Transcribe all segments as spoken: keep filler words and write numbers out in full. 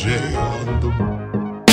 J on the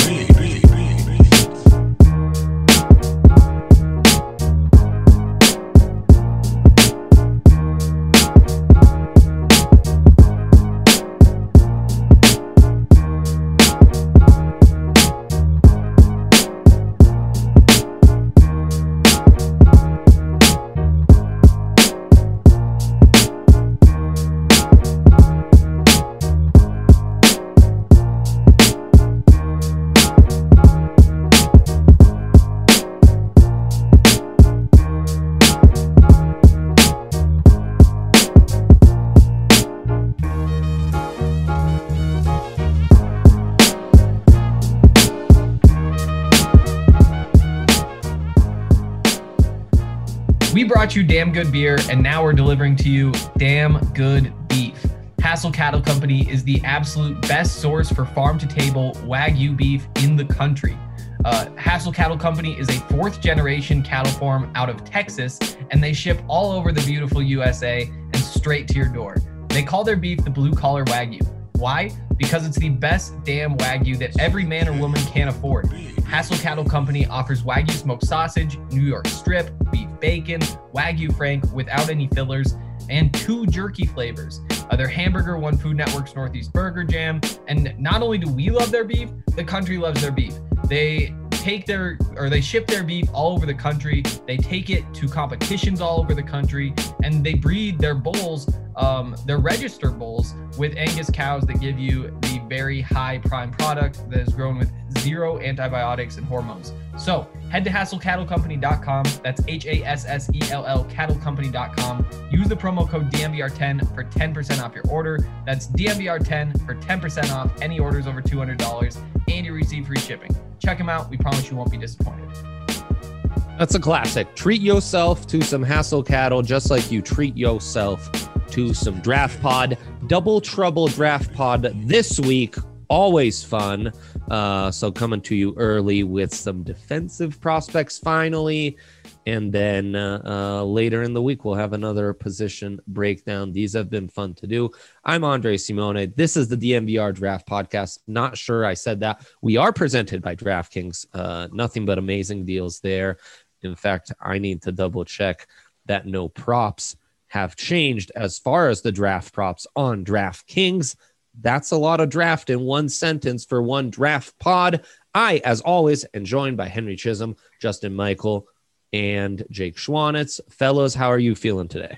We brought you damn good beer, and now we're delivering to you damn good beef. Hassel Cattle Company is the absolute best source for farm-to-table Wagyu beef in the country. Uh, Hassel Cattle Company is a fourth-generation cattle farm out of Texas, and they ship all over the beautiful U S A and straight to your door. They call their beef the blue-collar Wagyu. Why? Because it's the best damn Wagyu that every man or woman can afford. Hassel Cattle Company offers Wagyu smoked sausage, New York strip, beef bacon, Wagyu Frank without any fillers, and two jerky flavors. Uh, their hamburger won Food Network's Northeast Burger Jam. And not only do we love their beef, the country loves their beef. They take their, or they ship their beef all over the country. They take it to competitions all over the country, and they breed their bulls, um, their registered bulls, with Angus cows that give you the very high prime product that is grown with zero antibiotics and hormones. So head to hassel cattle company dot com. That's H A S S E L L cattle company dot com. Use the promo code D M V R ten for ten percent off your order. That's D M V R ten for ten percent off any orders over two hundred dollars, and you receive free shipping. Check them out. We promise you won't be disappointed. That's a classic. Treat yourself to some Hassel Cattle just like you treat yourself to some Draft Pod. Double Trouble Draft Pod this week. Always fun. Uh, so coming to you early with some defensive prospects finally. And then uh, uh, later in the week, we'll have another position breakdown. These have been fun to do. I'm Andre Simone. This is the D M V R Draft Podcast. Not sure I said that. We are presented by DraftKings. Uh, nothing but amazing deals there. In fact, I need to double check that no props have changed as far as the draft props on DraftKings. That's a lot of draft in one sentence for one draft pod. I, as always, am joined by Henry Chisholm, Justin Michael, and Jake Schwanitz. Fellows, how are you feeling today?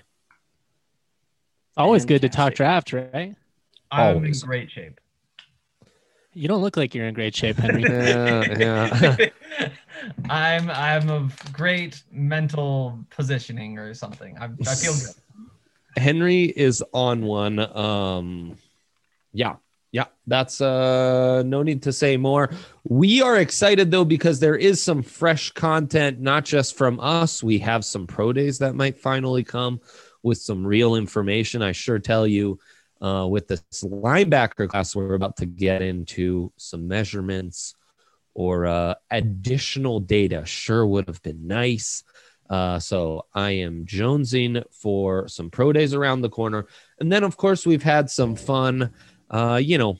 Always Fantastic. good to talk draft, right? I'm Always. in great shape. You don't look like you're in great shape, Henry. Yeah, yeah. I'm I'm of great mental positioning or something. I, I feel good. Henry is on one. Um, yeah, yeah, that's uh, no need to say more. We are excited, though, because there is some fresh content, not just from us. We have some pro days that might finally come with some real information. I sure tell you, uh, with this linebacker class, we're about to get into some measurements or uh, additional data. Sure would have been nice. Uh, so I am jonesing for some pro days around the corner. And then, of course, we've had some fun, uh, you know,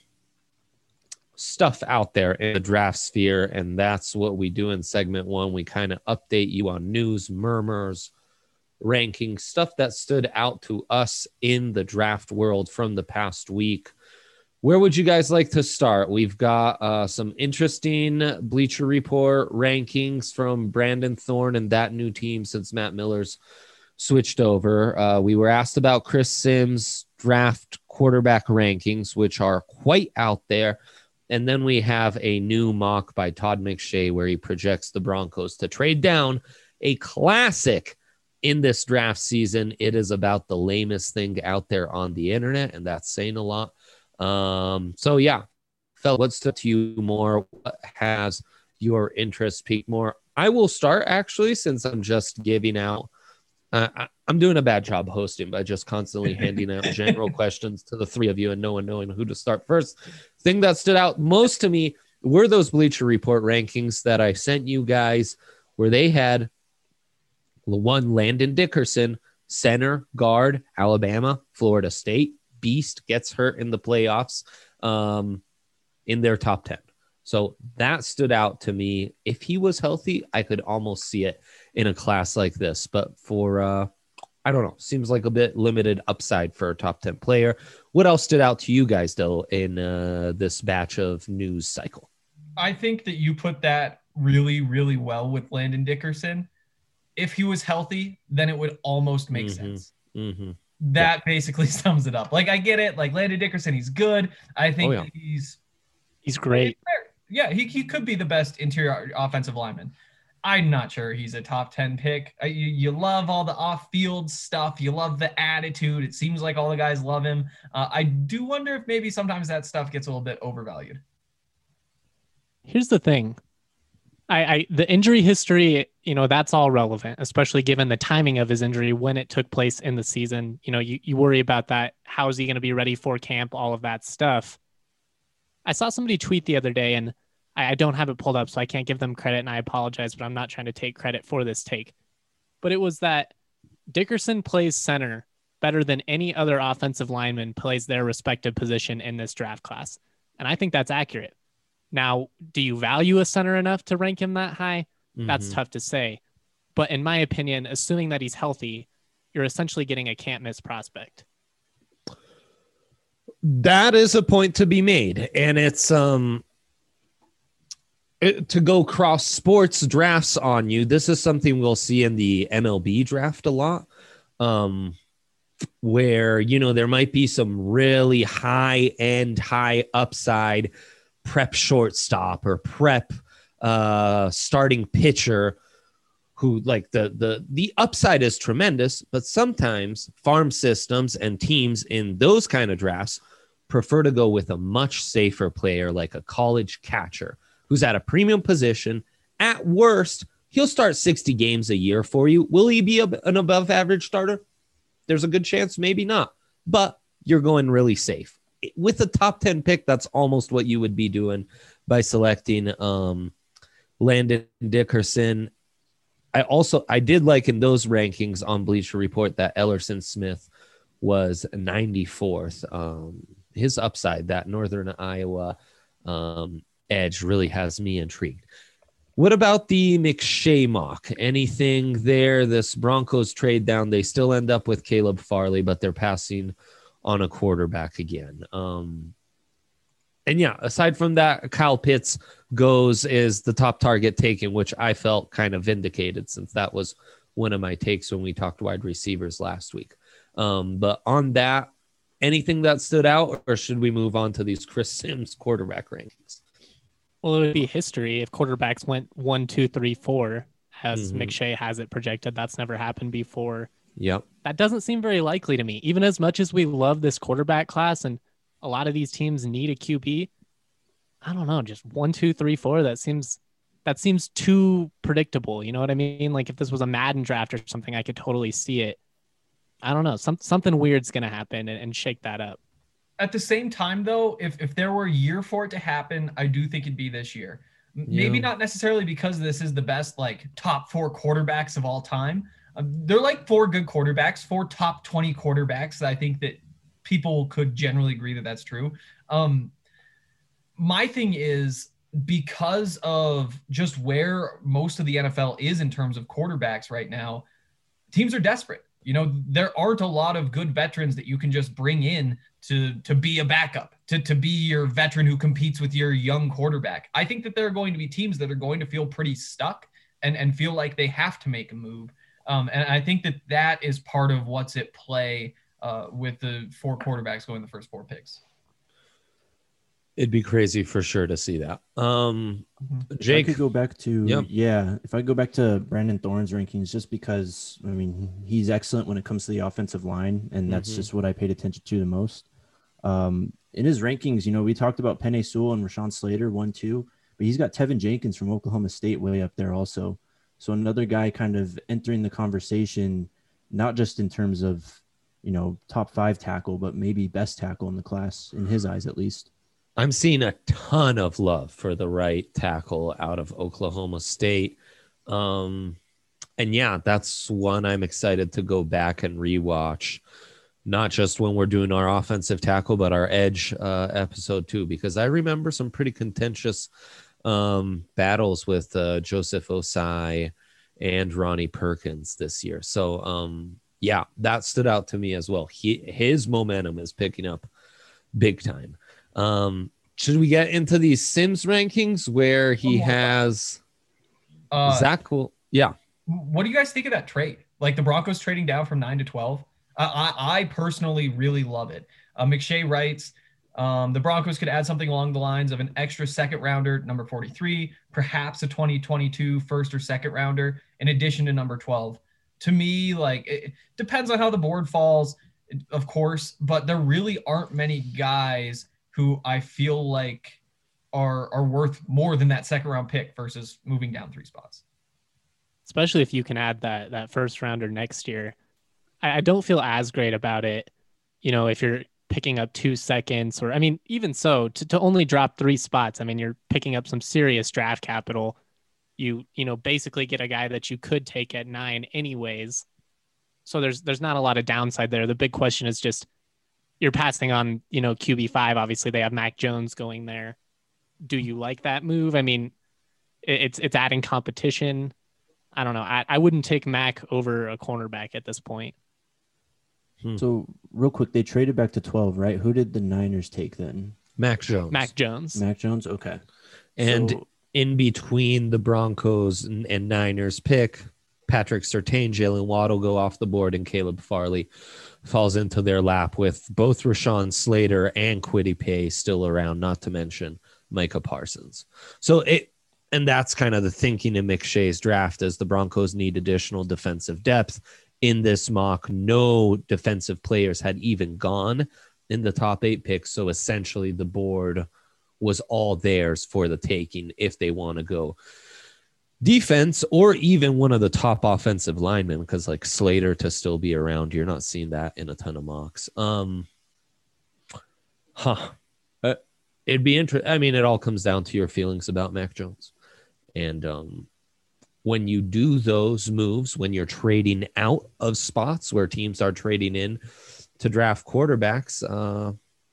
stuff out there in the draft sphere. And that's what we do in segment one. We kind of update you on news, murmurs, rankings, stuff that stood out to us in the draft world from the past week. Where would you guys like to start? We've got uh, some interesting Bleacher Report rankings from Brandon Thorne and that new team since Matt Miller's switched over. Uh, we were asked about Chris Sims' draft quarterback rankings, which are quite out there. And then we have a new mock by Todd McShay where he projects the Broncos to trade down, a classic in this draft season. It is about the lamest thing out there on the internet, and that's saying a lot. Um, so yeah, fella, what's to you more? What has your interest peaked more? I will start actually, since I'm just giving out, uh, I, I'm doing a bad job hosting by just constantly handing out general questions to the three of you and no one knowing who to start first. Thing that stood out most to me were those Bleacher Report rankings that I sent you guys, where they had one Landon Dickerson, center, guard, Alabama, Florida State. Beast gets hurt in the playoffs. Um, in their top ten. So that stood out to me. If he was healthy, I could almost see it in a class like this. But for, uh, I don't know, seems like a bit limited upside for a top ten player. What else stood out to you guys, though, in uh, this batch of news cycle? I think that you put that really, really well with Landon Dickerson. If he was healthy, then it would almost make mm-hmm. sense. Mm-hmm. That yeah. basically sums it up. Like, I get it. Like, Landon Dickerson, he's good. I think oh, yeah. that he's he's great. Yeah, he, he could be the best interior offensive lineman. I'm not sure he's a top ten pick. You, you love all the off-field stuff. You love the attitude. It seems like all the guys love him. Uh, I do wonder if maybe sometimes that stuff gets a little bit overvalued. Here's the thing. I, I the injury history, you know, that's all relevant, especially given the timing of his injury when it took place in the season. You know, you, you worry about that. How is he going to be ready for camp? All of that stuff. I saw somebody tweet the other day, and I, I don't have it pulled up, so I can't give them credit, and I apologize, but I'm not trying to take credit for this take. But it was that Dickerson plays center better than any other offensive lineman plays their respective position in this draft class. And I think that's accurate. Now, do you value a center enough to rank him that high? Mm-hmm. That's tough to say. But in my opinion, assuming that he's healthy, you're essentially getting a can't miss prospect. That is a point to be made. And it's um it, to go cross sports drafts on you. This is something we'll see in the M L B draft a lot, um, where, you know, there might be some really high end, high upside prep shortstop or prep uh, starting pitcher who, like, the the the upside is tremendous, but sometimes farm systems and teams in those kind of drafts prefer to go with a much safer player like a college catcher who's at a premium position. At worst, he'll start sixty games a year for you. Will he be a, an above average starter? There's a good chance, maybe not, but you're going really safe. With a top ten pick, that's almost what you would be doing by selecting um, Landon Dickerson. I also, I did like in those rankings on Bleacher Report that Ellerson Smith was ninety-fourth. Um, his upside, that Northern Iowa um, edge, really has me intrigued. What about the McShay mock? Anything there? This Broncos trade down, they still end up with Caleb Farley, but they're passing on a quarterback again. Um, and yeah, aside from that, Kyle Pitts goes is the top target taken, which I felt kind of vindicated since that was one of my takes when we talked wide receivers last week. Um, but on that, anything that stood out, or should we move on to these Chris Sims quarterback rankings? Well, it would be history if quarterbacks went one, two, three, four, as mm-hmm. McShay has it projected. That's never happened before. Yep. That doesn't seem very likely to me. Even as much as we love this quarterback class and a lot of these teams need a Q B, I don't know, just one, two, three, four. That seems that seems too predictable. You know what I mean? Like if this was a Madden draft or something, I could totally see it. I don't know. Some, something weird's going to happen and, and shake that up. At the same time, though, if, if there were a year for it to happen, I do think it'd be this year. Maybe yeah. not necessarily because this is the best, like, top four quarterbacks of all time. Um, they're like four good quarterbacks, four top twenty quarterbacks. I think that people could generally agree that that's true. Um, my thing is, because of just where most of the N F L is in terms of quarterbacks right now, teams are desperate. You know, there aren't a lot of good veterans that you can just bring in to, to be a backup, to, to be your veteran who competes with your young quarterback. I think that there are going to be teams that are going to feel pretty stuck and, and feel like they have to make a move. Um, and I think that that is part of what's at play uh, with the four quarterbacks going the first four picks. It'd be crazy for sure to see that. Um, Jake, I could go back to, yep. yeah, if I go back to Brandon Thorne's rankings, just because, I mean, he's excellent when it comes to the offensive line, and that's mm-hmm. just what I paid attention to the most. Um, in his rankings, you know, we talked about Penei Sewell and Rashawn Slater, one, two, but he's got Tevin Jenkins from Oklahoma State way up there also. So another guy kind of entering the conversation, not just in terms of, you know, top five tackle, but maybe best tackle in the class, in his eyes at least. I'm seeing a ton of love for the right tackle out of Oklahoma State. Um, and yeah, that's one I'm excited to go back and rewatch. not just when we're doing our offensive tackle, but our edge uh, episode too, because I remember some pretty contentious um, battles with uh, Joseph Osai and Ronnie Perkins this year. So um, yeah, that stood out to me as well. He, his momentum is picking up big time. Um, should we get into these Sims rankings where he has uh, Zach? Will, yeah. What do you guys think of that trade? Like the Broncos trading down from nine to twelve? Uh, I, I personally really love it. Uh, McShay writes, um, the Broncos could add something along the lines of an extra second rounder, number forty-three, perhaps a twenty twenty-two first or second rounder, in addition to number twelve. To me, like, it depends on how the board falls, of course, but there really aren't many guys who I feel like are are worth more than that second round pick versus moving down three spots. Especially if you can add that that first rounder next year. I, I don't feel as great about it, you know, if you're picking up two seconds or, I mean, even so, to, to only drop three spots, I mean, you're picking up some serious draft capital. You, you know, basically get a guy that you could take at nine anyways. So there's there's not a lot of downside there. The big question is just you're passing on, you know, Q B five. Obviously, they have Mac Jones going there. Do you like that move? I mean, it, it's it's adding competition. I don't know. I, I wouldn't take Mac over a cornerback at this point. Hmm. So real quick, they traded back to twelve, right? Who did the Niners take then? Mac Jones. Mac Jones. Mac Jones. Okay. And So- in between the Broncos and, and Niners pick, Patrick Surtain, Jalen Waddle go off the board, and Caleb Farley falls into their lap with both Rashawn Slater and Kwity Paye still around, not to mention Micah Parsons. So it, and that's kind of the thinking in McShay's draft, as the Broncos need additional defensive depth. In this mock, no defensive players had even gone in the top eight picks. So essentially the board was all theirs for the taking if they want to go defense or even one of the top offensive linemen, because like Slater to still be around, you're not seeing that in a ton of mocks. Um, huh. Uh, it'd be interesting. I mean, it all comes down to your feelings about Mac Jones. And um, when you do those moves, when you're trading out of spots where teams are trading in to draft quarterbacks, uh,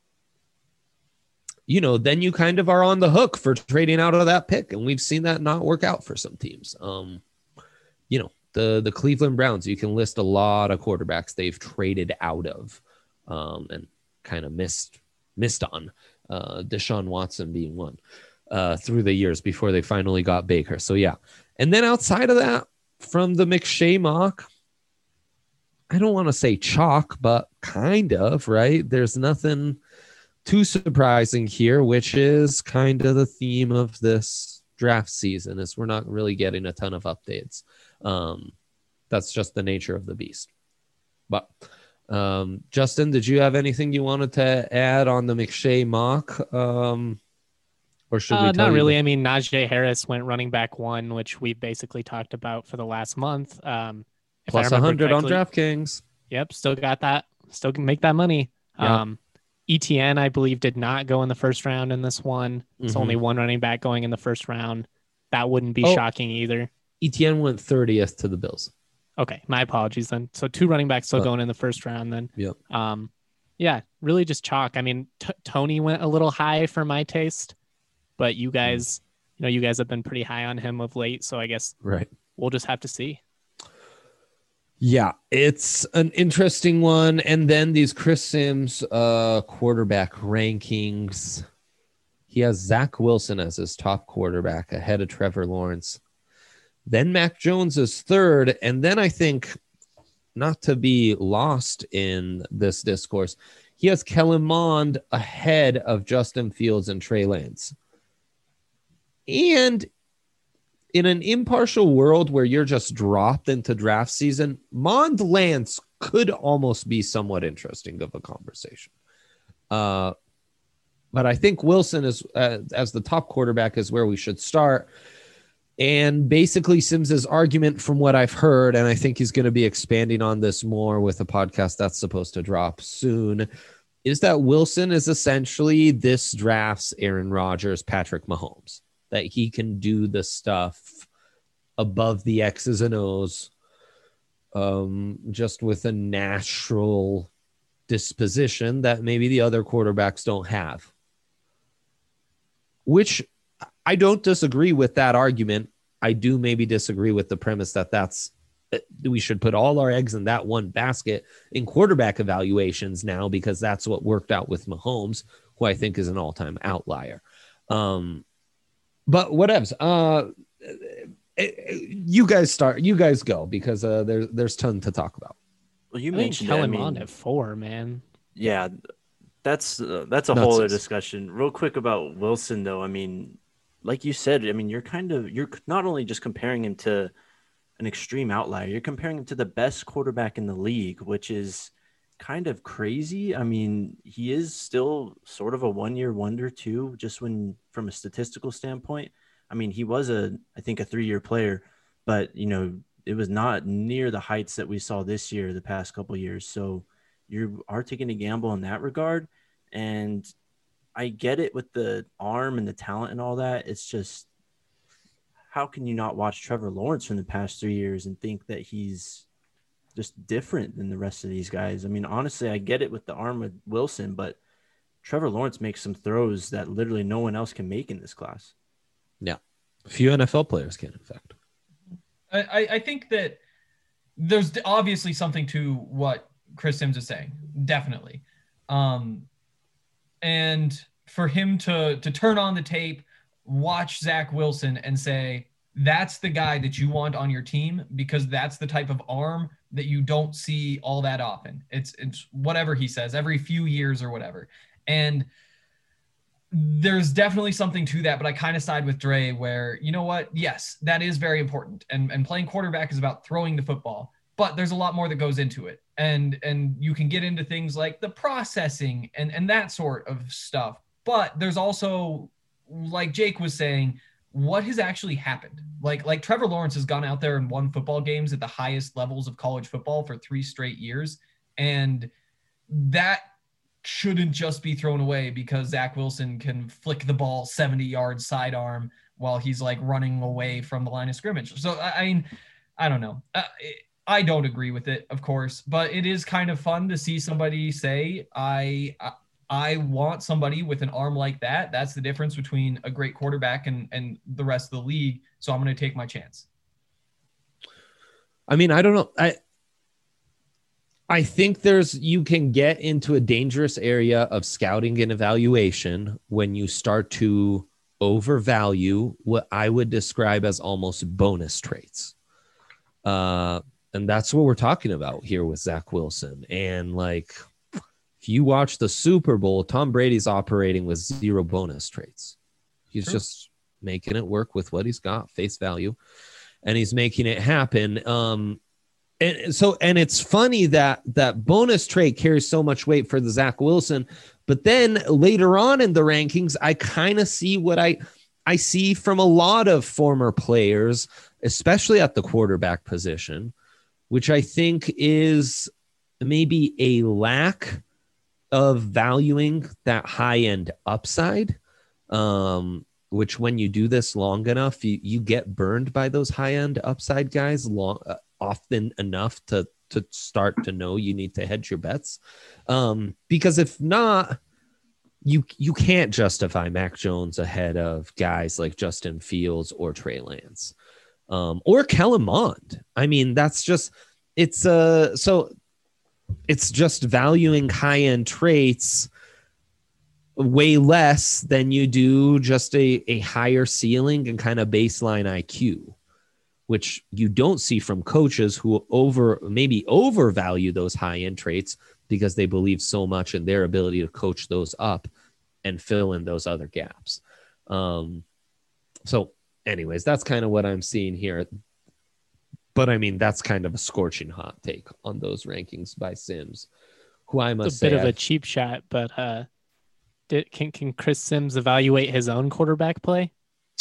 you know, then you kind of are on the hook for trading out of that pick. And we've seen that not work out for some teams. Um, you know, the, the Cleveland Browns, you can list a lot of quarterbacks they've traded out of um, and kind of missed, missed on, uh, Deshaun Watson being one uh, through the years before they finally got Baker. So yeah. And then outside of that, from the McShay mock, I don't want to say chalk, but kind of, right? There's nothing too surprising here, which is kind of the theme of this draft season, is we're not really getting a ton of updates. Um, that's just the nature of the beast. But um, Justin, did you have anything you wanted to add on the McShay mock? Um, or should we Uh, tell not you really. that- I mean, Najee Harris went running back one, which we basically talked about for the last month. Um, if I Plus remember one hundred on correctly- DraftKings. Yep, still got that. Still can make that money. Yeah. Um, E T N, I believe, did not go in the first round in this one. It's Mhm. only one running back going in the first round. That wouldn't be Oh. shocking either. E T N went thirtieth to the Bills. Okay, my apologies then. So two running backs still Uh, going in the first round then. Yep. Um, yeah, really just chalk. I mean, t- Tony went a little high for my taste, but you guys, you know, you guys have been pretty high on him of late. So I guess Right. we'll just have to see. Yeah, it's an interesting one. And then these Chris Sims uh, quarterback rankings. He has Zach Wilson as his top quarterback ahead of Trevor Lawrence. Then Mac Jones is third. And then I think, not to be lost in this discourse, he has Kellen Mond ahead of Justin Fields and Trey Lance. And in an impartial world where you're just dropped into draft season, Mond Lance could almost be somewhat interesting of a conversation. Uh, but I think Wilson is uh, as the top quarterback is where we should start. And basically Sims's argument, from what I've heard, and I think he's going to be expanding on this more with a podcast that's supposed to drop soon, is that Wilson is essentially this draft's Aaron Rodgers, Patrick Mahomes. That he can do the stuff above the X's and O's um, just with a natural disposition that maybe the other quarterbacks don't have. Which I don't disagree with that argument. I do maybe disagree with the premise that that's we should put all our eggs in that one basket in quarterback evaluations now, because that's what worked out with Mahomes, who I think is an all-time outlier. Um, but whatevs. Uh, you guys start. You guys go, because uh, there's there's ton to talk about. Well, you I mentioned kill it, I him mean, on at four, man. Yeah, that's uh, that's a Nuts. whole other discussion. Real quick about Wilson, though. I mean, like you said, I mean, you're kind of you're not only just comparing him to an extreme outlier, you're comparing him to the best quarterback in the league, which is kind of crazy. I mean, he is still sort of a one-year wonder too, just when from a statistical standpoint. I mean, he was a I think a three-year player, but you know, it was not near the heights that we saw this year, the past couple of years. So you are taking a gamble in that regard. And I get it with the arm and the talent and all that. It's just, how can you not watch Trevor Lawrence from the past three years and think that he's just different than the rest of these guys? I mean, honestly, I get it with the arm with Wilson, but Trevor Lawrence makes some throws that literally no one else can make in this class. Yeah. Few N F L players can, in fact. I, I think that there's obviously something to what Chris Sims is saying. Definitely. Um, and for him to, to turn on the tape, watch Zach Wilson and say, that's the guy that you want on your team, because that's the type of arm that you don't see all that often. It's, it's whatever he says, every few years or whatever. And there's definitely something to that, but I kind of side with Dre where, you know what? Yes, that is very important. And, and playing quarterback is about throwing the football, but there's a lot more that goes into it. And, and you can get into things like the processing and, and that sort of stuff. But there's also, like Jake was saying, what has actually happened? Like, like Trevor Lawrence has gone out there and won football games at the highest levels of college football for three straight years. And that shouldn't just be thrown away because Zach Wilson can flick the ball seventy yards sidearm while he's like running away from the line of scrimmage. So, I mean, I don't know. Uh, I don't agree with it, of course, but it is kind of fun to see somebody say, I, I, I want somebody with an arm like that. That's the difference between a great quarterback and, and the rest of the league. So I'm going to take my chance. I mean, I don't know. I, I think there's, you can get into a dangerous area of scouting and evaluation when you start to overvalue what I would describe as almost bonus traits. Uh, and that's what we're talking about here with Zach Wilson. And like, if you watch the Super Bowl, Tom Brady's operating with zero bonus traits. He's sure. just making it work with what he's got, face value, and he's making it happen. Um, And so, and it's funny that that bonus trait carries so much weight for the Zach Wilson, but then later on in the rankings, I kind of see what I, I see from a lot of former players, especially at the quarterback position, which I think is maybe a lack of valuing that high end upside. Um, which when you do this long enough, you, you get burned by those high end upside guys long, uh, often enough to, to start to know you need to hedge your bets. Um, because if not, you, you can't justify Mac Jones ahead of guys like Justin Fields or Trey Lance, um, or Kellen Mond. I mean, that's just, it's uh, so it's just valuing high end traits way less than you do just a, a higher ceiling and kind of baseline I Q, which you don't see from coaches who over maybe overvalue those high end traits because they believe so much in their ability to coach those up and fill in those other gaps. Um, so anyways, that's kind of what I'm seeing here. But I mean, that's kind of a scorching hot take on those rankings by Sims, who I must it's a say bit of I've, a cheap shot, but uh, did, can can Chris Sims evaluate his own quarterback play?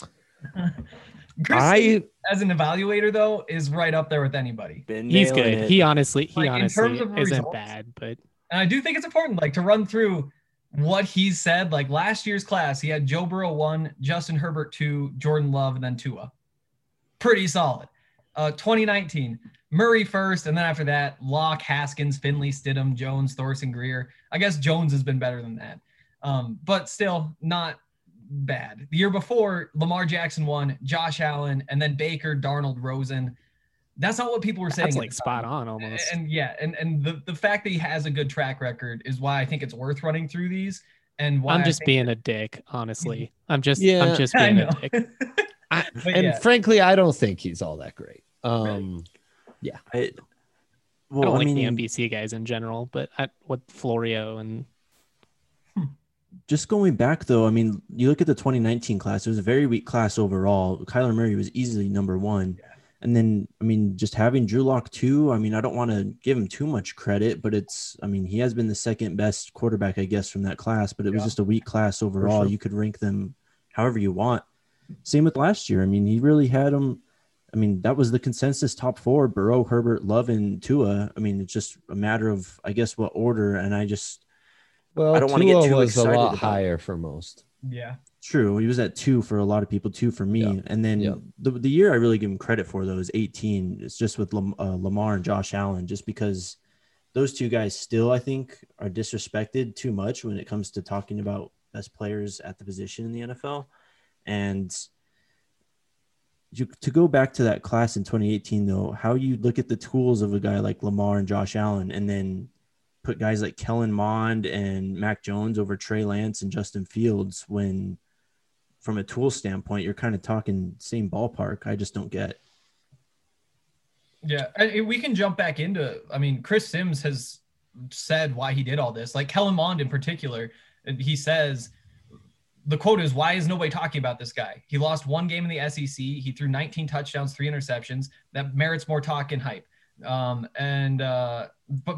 Chris I Sims, as an evaluator, though, is right up there with anybody. He's good. It. He honestly, he Like, honestly in terms of isn't results, bad, but and I do think it's important, like, to run through what he's said. Like last year's class, he had Joe Burrow one, Justin Herbert two, Jordan Love, and then Tua. Pretty solid. Uh, twenty nineteen, Murray first, and then after that, Locke, Haskins, Finley, Stidham, Jones, Thorson, Greer. I guess Jones has been better than that, um, but still not bad. The year before, Lamar Jackson won, Josh Allen, and then Baker, Darnold, Rosen. That's not what people were saying. That's like spot on almost. And, and yeah, and, and the, the fact that he has a good track record is why I think it's worth running through these. And why I'm just being that, a dick, honestly. I'm just, yeah, I'm just being a dick. I, and yeah. frankly, I don't think he's all that great. Um, right. Yeah. I, well, I don't I like mean, the N B C guys in general, but I, what Florio and just going back though, I mean, you look at the twenty nineteen class, it was a very weak class overall. Kyler Murray was easily number one. Yeah. And then, I mean, just having Drew Lock too, I mean, I don't want to give him too much credit, but it's, I mean, he has been the second best quarterback, I guess, from that class, but it yeah. was just a weak class overall. Sure. You could rank them however you want. Same with last year. I mean, he really had them. I mean, that was the consensus top four: Burrow, Herbert, Love, and Tua. I mean, it's just a matter of, I guess, what order. And I just, well, I don't want to get too was excited. A lot about higher for most. Yeah, true. He was at two for a lot of people, two for me. Yeah. And then yeah. the the year I really give him credit for though is eighteen. It's just with Lam, uh, Lamar and Josh Allen, just because those two guys still, I think, are disrespected too much when it comes to talking about best players at the position in the N F L. And you, to go back to that class in twenty eighteen, though, how you look at the tools of a guy like Lamar and Josh Allen, and then put guys like Kellen Mond and Mac Jones over Trey Lance and Justin Fields, when from a tool standpoint, you're kind of talking same ballpark. I just don't get. Yeah, and we can jump back into, I mean, Chris Sims has said why he did all this. Like Kellen Mond in particular, he says, the quote is, why is nobody talking about this guy? He lost one game in the S E C. He threw nineteen touchdowns, three interceptions. That merits more talk and hype. Um, and uh, but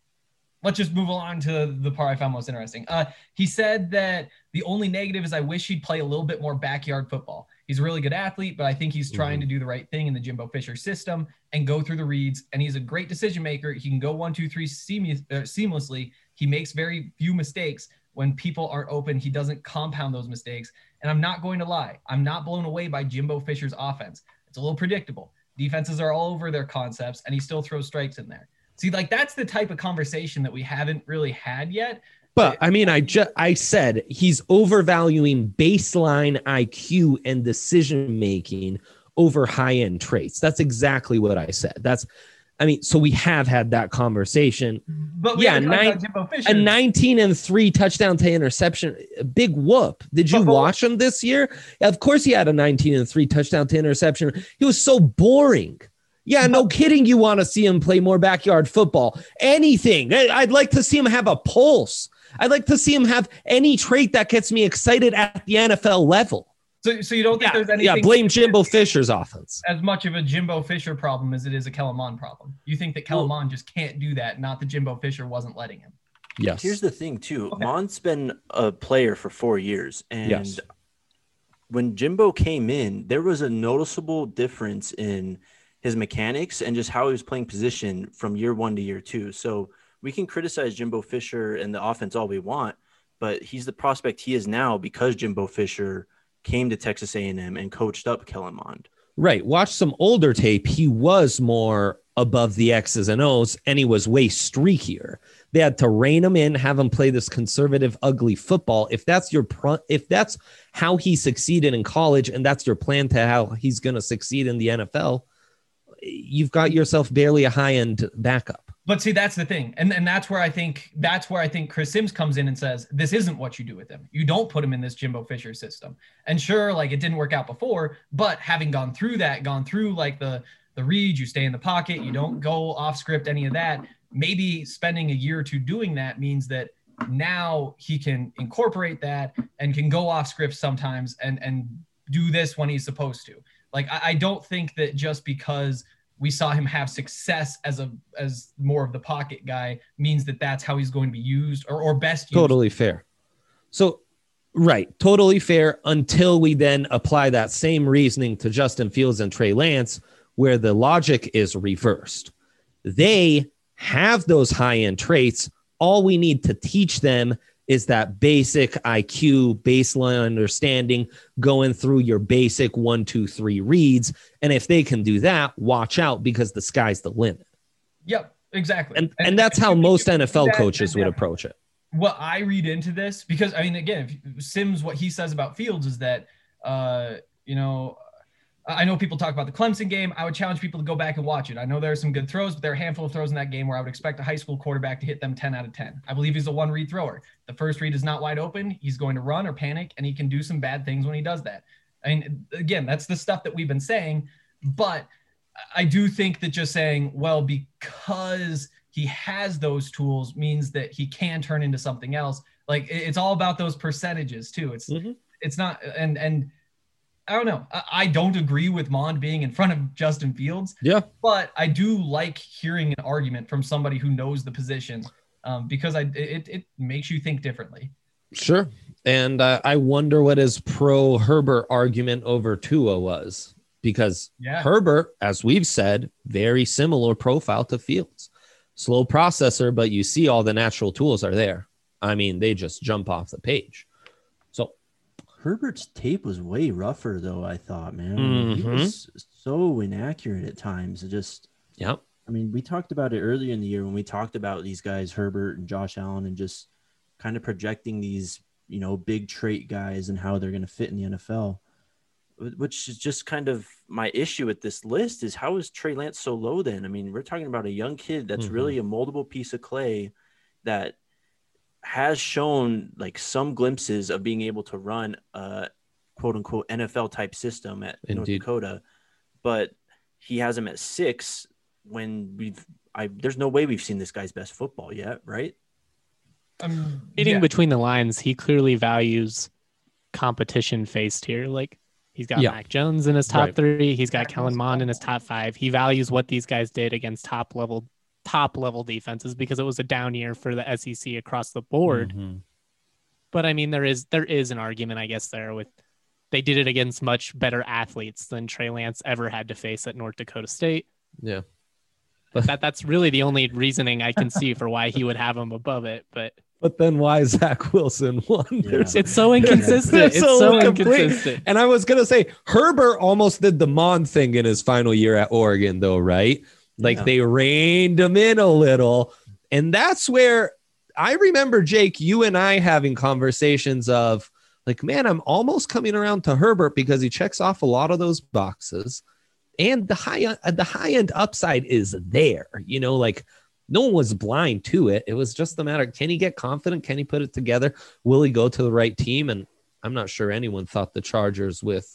let's just move along to the part I found most interesting. Uh, he said that the only negative is I wish he'd play a little bit more backyard football. He's a really good athlete, but I think he's trying mm-hmm. to do the right thing in the Jimbo Fisher system and go through the reads. And he's a great decision maker. He can go one, two, three seamless, uh, seamlessly. He makes very few mistakes. When people aren't open, he doesn't compound those mistakes. And I'm not going to lie. I'm not blown away by Jimbo Fisher's offense. It's a little predictable. Defenses are all over their concepts, and he still throws strikes in there. See, like that's the type of conversation that we haven't really had yet. But I mean, I just I said he's overvaluing baseline I Q and decision making over high-end traits. That's exactly what I said. That's I mean, so we have had that conversation. But we yeah, nine, a nineteen and three touchdown to interception, a big whoop. Did you but, watch him this year? Of course, he had a nineteen and three touchdown to interception. He was so boring. Yeah, no kidding. You want to see him play more backyard football? Anything. I'd like to see him have a pulse. I'd like to see him have any trait that gets me excited at the N F L level. So, so you don't think yeah, there's anything? Yeah, blame Jimbo Fisher's offense. As much of a Jimbo Fisher problem as it is a Kellen Mond problem. You think that Kellen Mond just can't do that, not that Jimbo Fisher wasn't letting him. Yes. Here's the thing, too. Okay. Mond's been a player for four years. And yes. when Jimbo came in, there was a noticeable difference in his mechanics and just how he was playing position from year one to year two. So we can criticize Jimbo Fisher and the offense all we want, but he's the prospect he is now because Jimbo Fisher came to Texas A and M and coached up Kellen Mond. Right. Watch some older tape. He was more above the X's and O's, and he was way streakier. They had to rein him in, have him play this conservative, ugly football. If that's your pro- if that's how he succeeded in college, and that's your plan to how he's going to succeed in the N F L, you've got yourself barely a high-end backup. But see, that's the thing. And, and that's where I think that's where I think Chris Sims comes in and says, this isn't what you do with him. You don't put him in this Jimbo Fisher system. And sure, like it didn't work out before, but having gone through that, gone through like the, the read, you stay in the pocket, you don't go off script, any of that, maybe spending a year or two doing that means that now he can incorporate that and can go off script sometimes and, and do this when he's supposed to. Like, I, I don't think that just because we saw him have success as a as more of the pocket guy means that that's how he's going to be used or, or best used. Totally fair. So, right. Totally fair until we then apply that same reasoning to Justin Fields and Trey Lance, where the logic is reversed. They have those high-end traits. All we need to teach them is that basic I Q, baseline understanding, going through your basic one, two, three reads. And if they can do that, watch out, because the sky's the limit. Yep, exactly. And and, and that's how most N F L that, coaches would yeah. approach it. What I read into this, because I mean, again, if Sims, what he says about Fields is that, uh, you know, I know people talk about the Clemson game. I would challenge people to go back and watch it. I know there are some good throws, but there are a handful of throws in that game where I would expect a high school quarterback to hit them ten out of ten. I believe he's a one read thrower. The first read is not wide open. He's going to run or panic, and he can do some bad things when he does that. I mean, again, that's the stuff that we've been saying, but I do think that just saying, well, because he has those tools means that he can turn into something else. Like, it's all about those percentages too. It's, mm-hmm. it's not, and, and, I don't know. I don't agree with Mond being in front of Justin Fields. Yeah. But I do like hearing an argument from somebody who knows the position, um, because I it, it makes you think differently. Sure. And uh, I wonder what his pro Herbert argument over Tua was, because yeah. Herbert, as we've said, very similar profile to Fields. Slow processor, but you see all the natural tools are there. I mean, they just jump off the page. Herbert's tape was way rougher, though, I thought, man. Mm-hmm. He was so inaccurate at times. It just, yeah. I mean, we talked about it earlier in the year when we talked about these guys, Herbert and Josh Allen, and just kind of projecting these, you know, big trait guys and how they're going to fit in the N F L, which is just kind of my issue with this list is how is Trey Lance so low then? I mean, we're talking about a young kid that's mm-hmm. really a moldable piece of clay that has shown like some glimpses of being able to run a quote unquote N F L type system at Indeed. North Dakota, but he has him at six when we've, I, there's no way we've seen this guy's best football yet. Right. Um, Reading yeah. between the lines, he clearly values competition faced here. Like he's got yeah. Mac Jones in his top right. three. He's got Kellen Mond in his top five. He values what these guys did against top level top level defenses because it was a down year for the S E C across the board. Mm-hmm. But I mean, there is, there is an argument, I guess, there with, they did it against much better athletes than Trey Lance ever had to face at North Dakota State. Yeah. But that that's really the only reasoning I can see for why he would have him above it. But, but then why Zach Wilson won? Yeah. It's so inconsistent. It's so, so inconsistent. And I was going to say, Herbert almost did the Mond thing in his final year at Oregon though, right? Like yeah. they reined him in a little. And that's where I remember, Jake, you and I having conversations of like, man, I'm almost coming around to Herbert because he checks off a lot of those boxes. And the high, uh, the high end upside is there, you know, like no one was blind to it. It was just the matter. Can he get confident? Can he put it together? Will he go to the right team? And I'm not sure anyone thought the Chargers with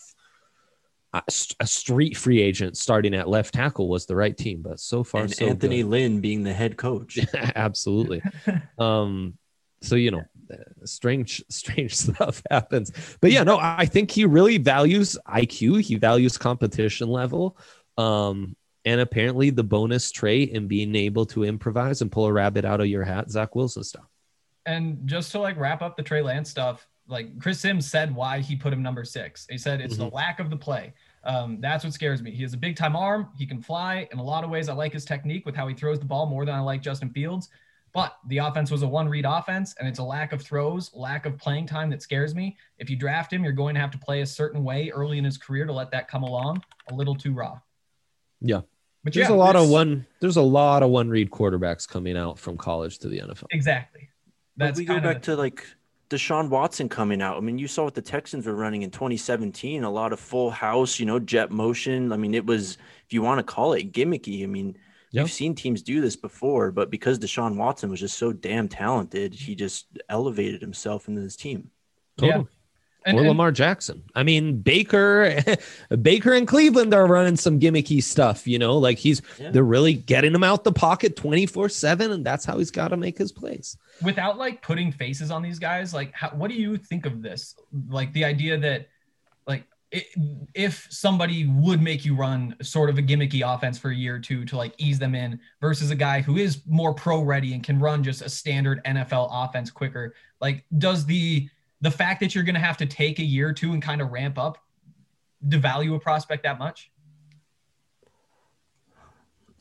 a street free agent starting at left tackle was the right team, but so far, and so Anthony good. Lynn being the head coach. Absolutely. um, so, you know, strange, strange stuff happens, but yeah, no, I think he really values I Q. He values competition level. Um, and apparently the bonus trait in being able to improvise and pull a rabbit out of your hat, Zach Wilson stuff. And just to like wrap up the Trey Lance stuff, like Chris Sims said why he put him number six. He said it's mm-hmm. the lack of the play. Um, that's what scares me. He has a big time arm. He can fly. In a lot of ways, I like his technique with how he throws the ball more than I like Justin Fields. But the offense was a one read offense, and it's a lack of throws, lack of playing time that scares me. If you draft him, you're going to have to play a certain way early in his career to let that come along. A little too raw. Yeah. But there's yeah, a lot of one, there's a lot of one read quarterbacks coming out from college to the N F L. Exactly. That's but we go back the- to like Deshaun Watson coming out. I mean, you saw what the Texans were running in twenty seventeen, a lot of full house, you know, jet motion. I mean, it was, if you want to call it gimmicky, I mean, yep. You've seen teams do this before, but because Deshaun Watson was just so damn talented, he just elevated himself into this team. Totally. Yeah. And, or and, Lamar Jackson. I mean, Baker, Baker and Cleveland are running some gimmicky stuff, you know, like he's, yeah. they're really getting him out the pocket twenty-four seven, and that's how he's got to make his plays. Without like putting faces on these guys, like, how, what do you think of this? Like the idea that like, it, if somebody would make you run sort of a gimmicky offense for a year or two to like ease them in versus a guy who is more pro ready and can run just a standard N F L offense quicker, like does the, the fact that you're going to have to take a year or two and kind of ramp up devalue a prospect that much?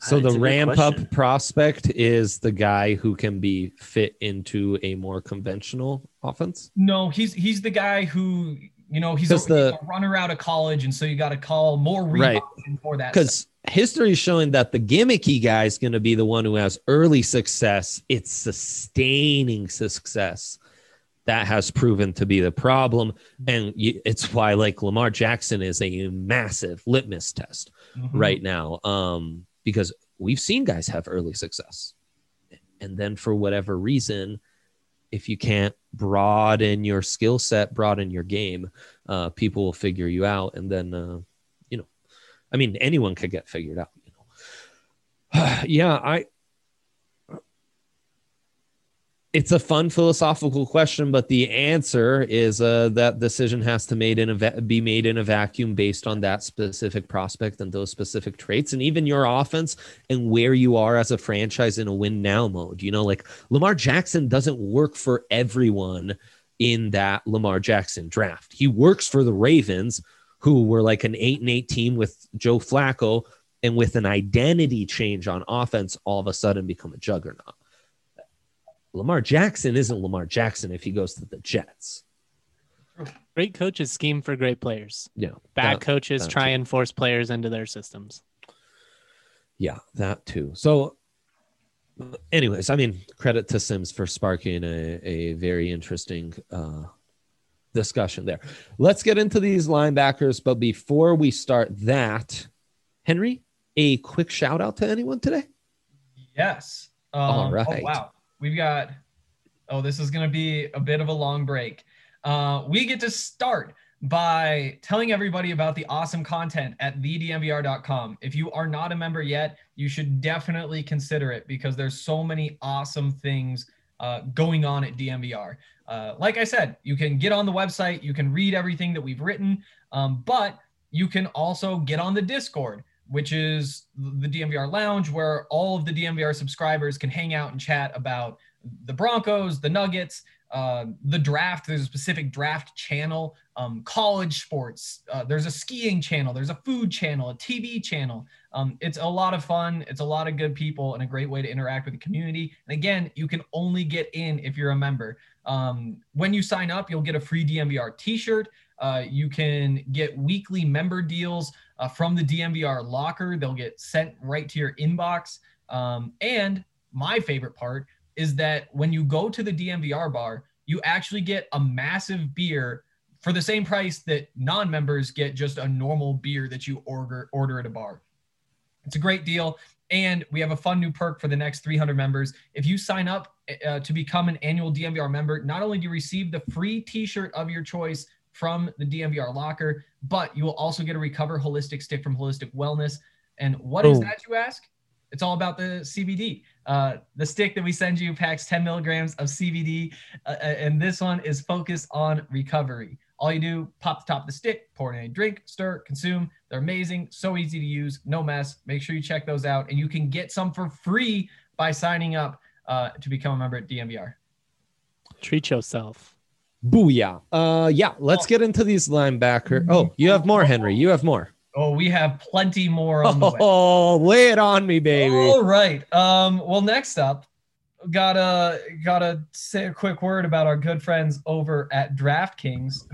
So That's the a good ramp question. up prospect is the guy who can be fit into a more conventional offense. No, he's he's the guy who, you know, he's a, 'Cause the- he's a runner out of college, and so you got to call more read Right. option for that. Because history is showing that the gimmicky guy is going to be the one who has early success. It's sustaining success that has proven to be the problem. And you, it's why like Lamar Jackson is a massive litmus test Mhm. right now. Um, because we've seen guys have early success. And then for whatever reason, if you can't broaden your skill set, broaden your game, uh, people will figure you out. And then, uh, you know, I mean, anyone could get figured out. You know, yeah, I. It's a fun philosophical question, but the answer is uh, that decision has to made in a va- be made in a vacuum based on that specific prospect and those specific traits, and even your offense and where you are as a franchise in a win now mode. You know, like Lamar Jackson doesn't work for everyone in that Lamar Jackson draft. He works for the Ravens, who were like an eight and eight team with Joe Flacco, and with an identity change on offense, all of a sudden become a juggernaut. Lamar Jackson isn't Lamar Jackson if he goes to the Jets. Great coaches scheme for great players. Yeah. Bad that- coaches that try too. and force players into their systems. Yeah, that too. So anyways, I mean, credit to Sims for sparking a, a very interesting uh, discussion there. Let's get into these linebackers. But before we start that, Henry, a quick shout out to anyone today? Yes. Um, All right. Oh, wow. We've got, oh, this is going to be a bit of a long break. Uh, we get to start by telling everybody about the awesome content at the d m v r dot com. If you are not a member yet, you should definitely consider it because there's so many awesome things uh, going on at D M V R. Uh, like I said, you can get on the website, you can read everything that we've written, um, but you can also get on the Discord, which is the D M V R Lounge, where all of the D M V R subscribers can hang out and chat about the Broncos, the Nuggets, uh, the draft. There's a specific draft channel, um, college sports. Uh, there's a skiing channel. There's a food channel, a T V channel. Um, it's a lot of fun. It's a lot of good people and a great way to interact with the community. And again, you can only get in if you're a member. Um, when you sign up, you'll get a free D M V R t-shirt. Uh, you can get weekly member deals uh, from the D M V R locker. They'll get sent right to your inbox. Um, and my favorite part is that when you go to the D M V R bar, you actually get a massive beer for the same price that non-members get just a normal beer that you order order at a bar. It's a great deal. And we have a fun new perk for the next three hundred members. If you sign up uh, to become an annual D M V R member, not only do you receive the free t-shirt of your choice from the D M V R locker, but you will also get a Recover Holistic stick from Holistic Wellness. And what is Boom. that, you ask? It's all about the C B D. Uh, the stick that we send you packs ten milligrams of C B D, uh, and this one is focused on recovery. All you do, pop the top of the stick, pour it in a drink, stir, consume. They're amazing, so easy to use, no mess. Make sure you check those out, and you can get some for free by signing up uh, to become a member at D M V R. Treat yourself. Booyah. Uh, yeah, let's get into these linebacker. Oh, you have more, Henry. You have more. Oh, we have plenty more on the way. Oh, lay it on me, baby. All right. Um, well, next up, gotta gotta say a quick word about our good friends over at DraftKings,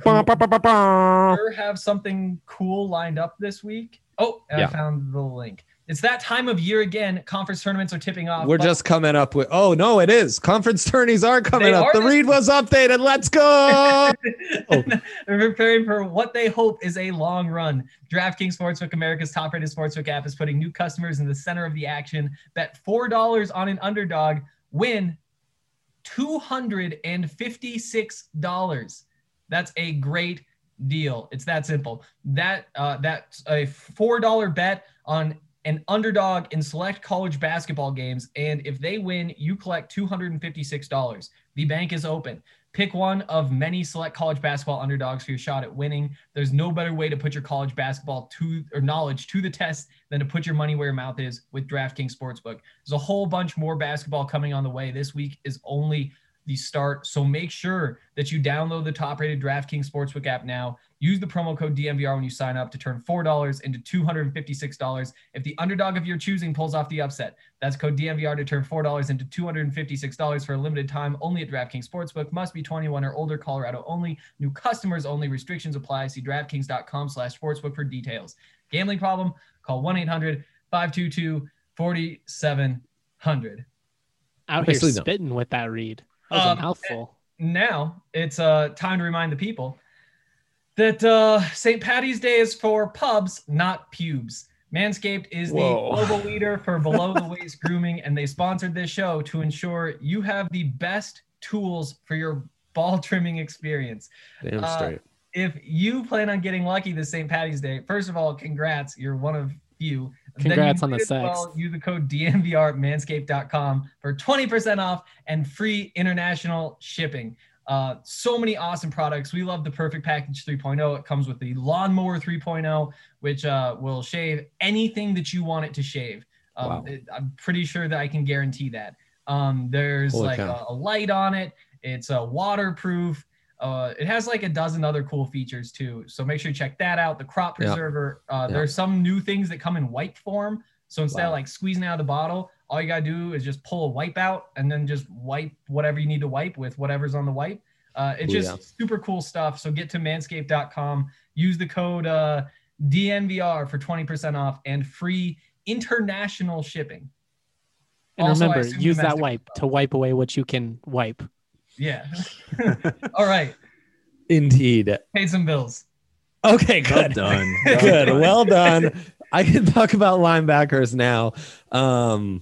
who sure have something cool lined up this week. Oh, and Yeah. I found the link. It's that time of year again. Conference tournaments are tipping off. We're but- just coming up with, oh, no, it is. Conference tourneys are coming They up. are The this- read was updated. Let's go. Oh. They're preparing for what they hope is a long run. DraftKings Sportsbook, America's top-rated sportsbook app, is putting new customers in the center of the action. Bet four dollars on an underdog, win two hundred fifty-six dollars. That's a great deal. It's that simple. That uh, that's a four dollar bet on an underdog in select college basketball games, and if they win, you collect two hundred fifty-six dollars. The bank is open. Pick one of many select college basketball underdogs for your shot at winning. There's no better way to put your college basketball to or knowledge to the test than to put your money where your mouth is with DraftKings Sportsbook. There's a whole bunch more basketball coming on the way. This week is only the start. So make sure that you download the top-rated DraftKings Sportsbook app now. Use the promo code D M V R when you sign up to turn four dollars into two hundred fifty-six dollars if the underdog of your choosing pulls off the upset. That's code D M V R to turn four dollars into two hundred fifty-six dollars for a limited time only at DraftKings Sportsbook. Must be twenty-one or older, Colorado only. New customers only. Restrictions apply. See DraftKings.com slash sportsbook for details. Gambling problem? Call one eight hundred five two two four seven zero zero. Out here Nicely done. spitting with that read. That was Um, a mouthful. Now it's uh, time to remind the people that uh, Saint Patty's Day is for pubs, not pubes. Manscaped is the Whoa. global leader for below-the-waist grooming, and they sponsored this show to ensure you have the best tools for your ball trimming experience. Damn Uh, straight. If you plan on getting lucky this Saint Patty's Day, first of all, congrats. You're one of few. Then Congrats you on the might as sex. well use the code D M V R at manscaped dot com for twenty percent off and free international shipping. Uh, so many awesome products. We love the Perfect Package three point oh. It comes with the Lawnmower three point oh, which uh, will shave anything that you want it to shave. Um, Wow. it, I'm pretty sure that I can guarantee that. Um, there's Holy like cow. a, a light on it. It's a waterproof. Uh, it has like a dozen other cool features too. So make sure you check that out. The crop Yeah. preserver. Uh, Yeah. There's some new things that come in wipe form. So instead Wow. of like squeezing out of the bottle, all you gotta do is just pull a wipe out and then just wipe whatever you need to wipe with whatever's on the wipe. Uh, it's Ooh, just yeah. super cool stuff. So get to manscaped dot com, use the code uh, D N V R for twenty percent off and free international shipping. And Also, I remember, assume use that domestic wipe as to wipe away what you can wipe. Yeah. All right. Indeed. Paid some bills. Okay, Well good. done. Good. Well done. I can talk about linebackers now. Um,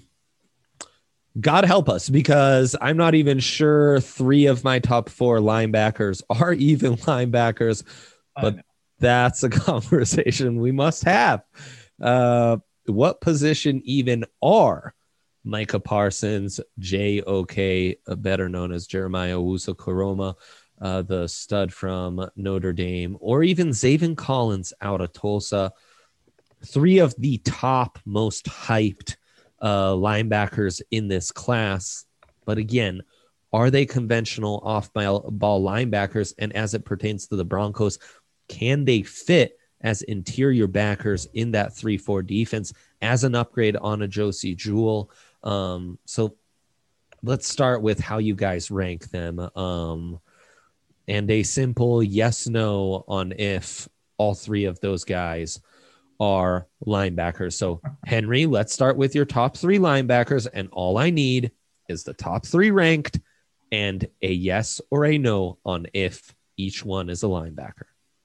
God help us, because I'm not even sure three of my top four linebackers are even linebackers, I but know. that's a conversation we must have. Uh, what position even are Micah Parsons, J O K, uh, better known as Jeremiah Owusu-Koroma, uh, the stud from Notre Dame, or even Zaven Collins out of Tulsa? Three of the top most hyped uh, linebackers in this class. But again, are they conventional off-ball ball linebackers? And as it pertains to the Broncos, can they fit as interior backers in that three four defense as an upgrade on a Josie Jewell? Um, so let's start with how you guys rank them. Um, and a simple yes, no on if all three of those guys are linebackers. So Henry, let's start with your top three linebackers. And all I need is the top three ranked and a yes or a no on if each one is a linebacker.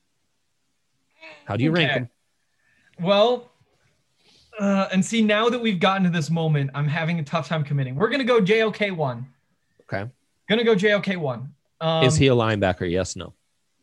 How do you rank Okay. them? Well, uh, and see, now that we've gotten to this moment, I'm having a tough time committing. We're going to go J O K one. Okay. Going to go J O K one. Um, Is he a linebacker? Yes, no.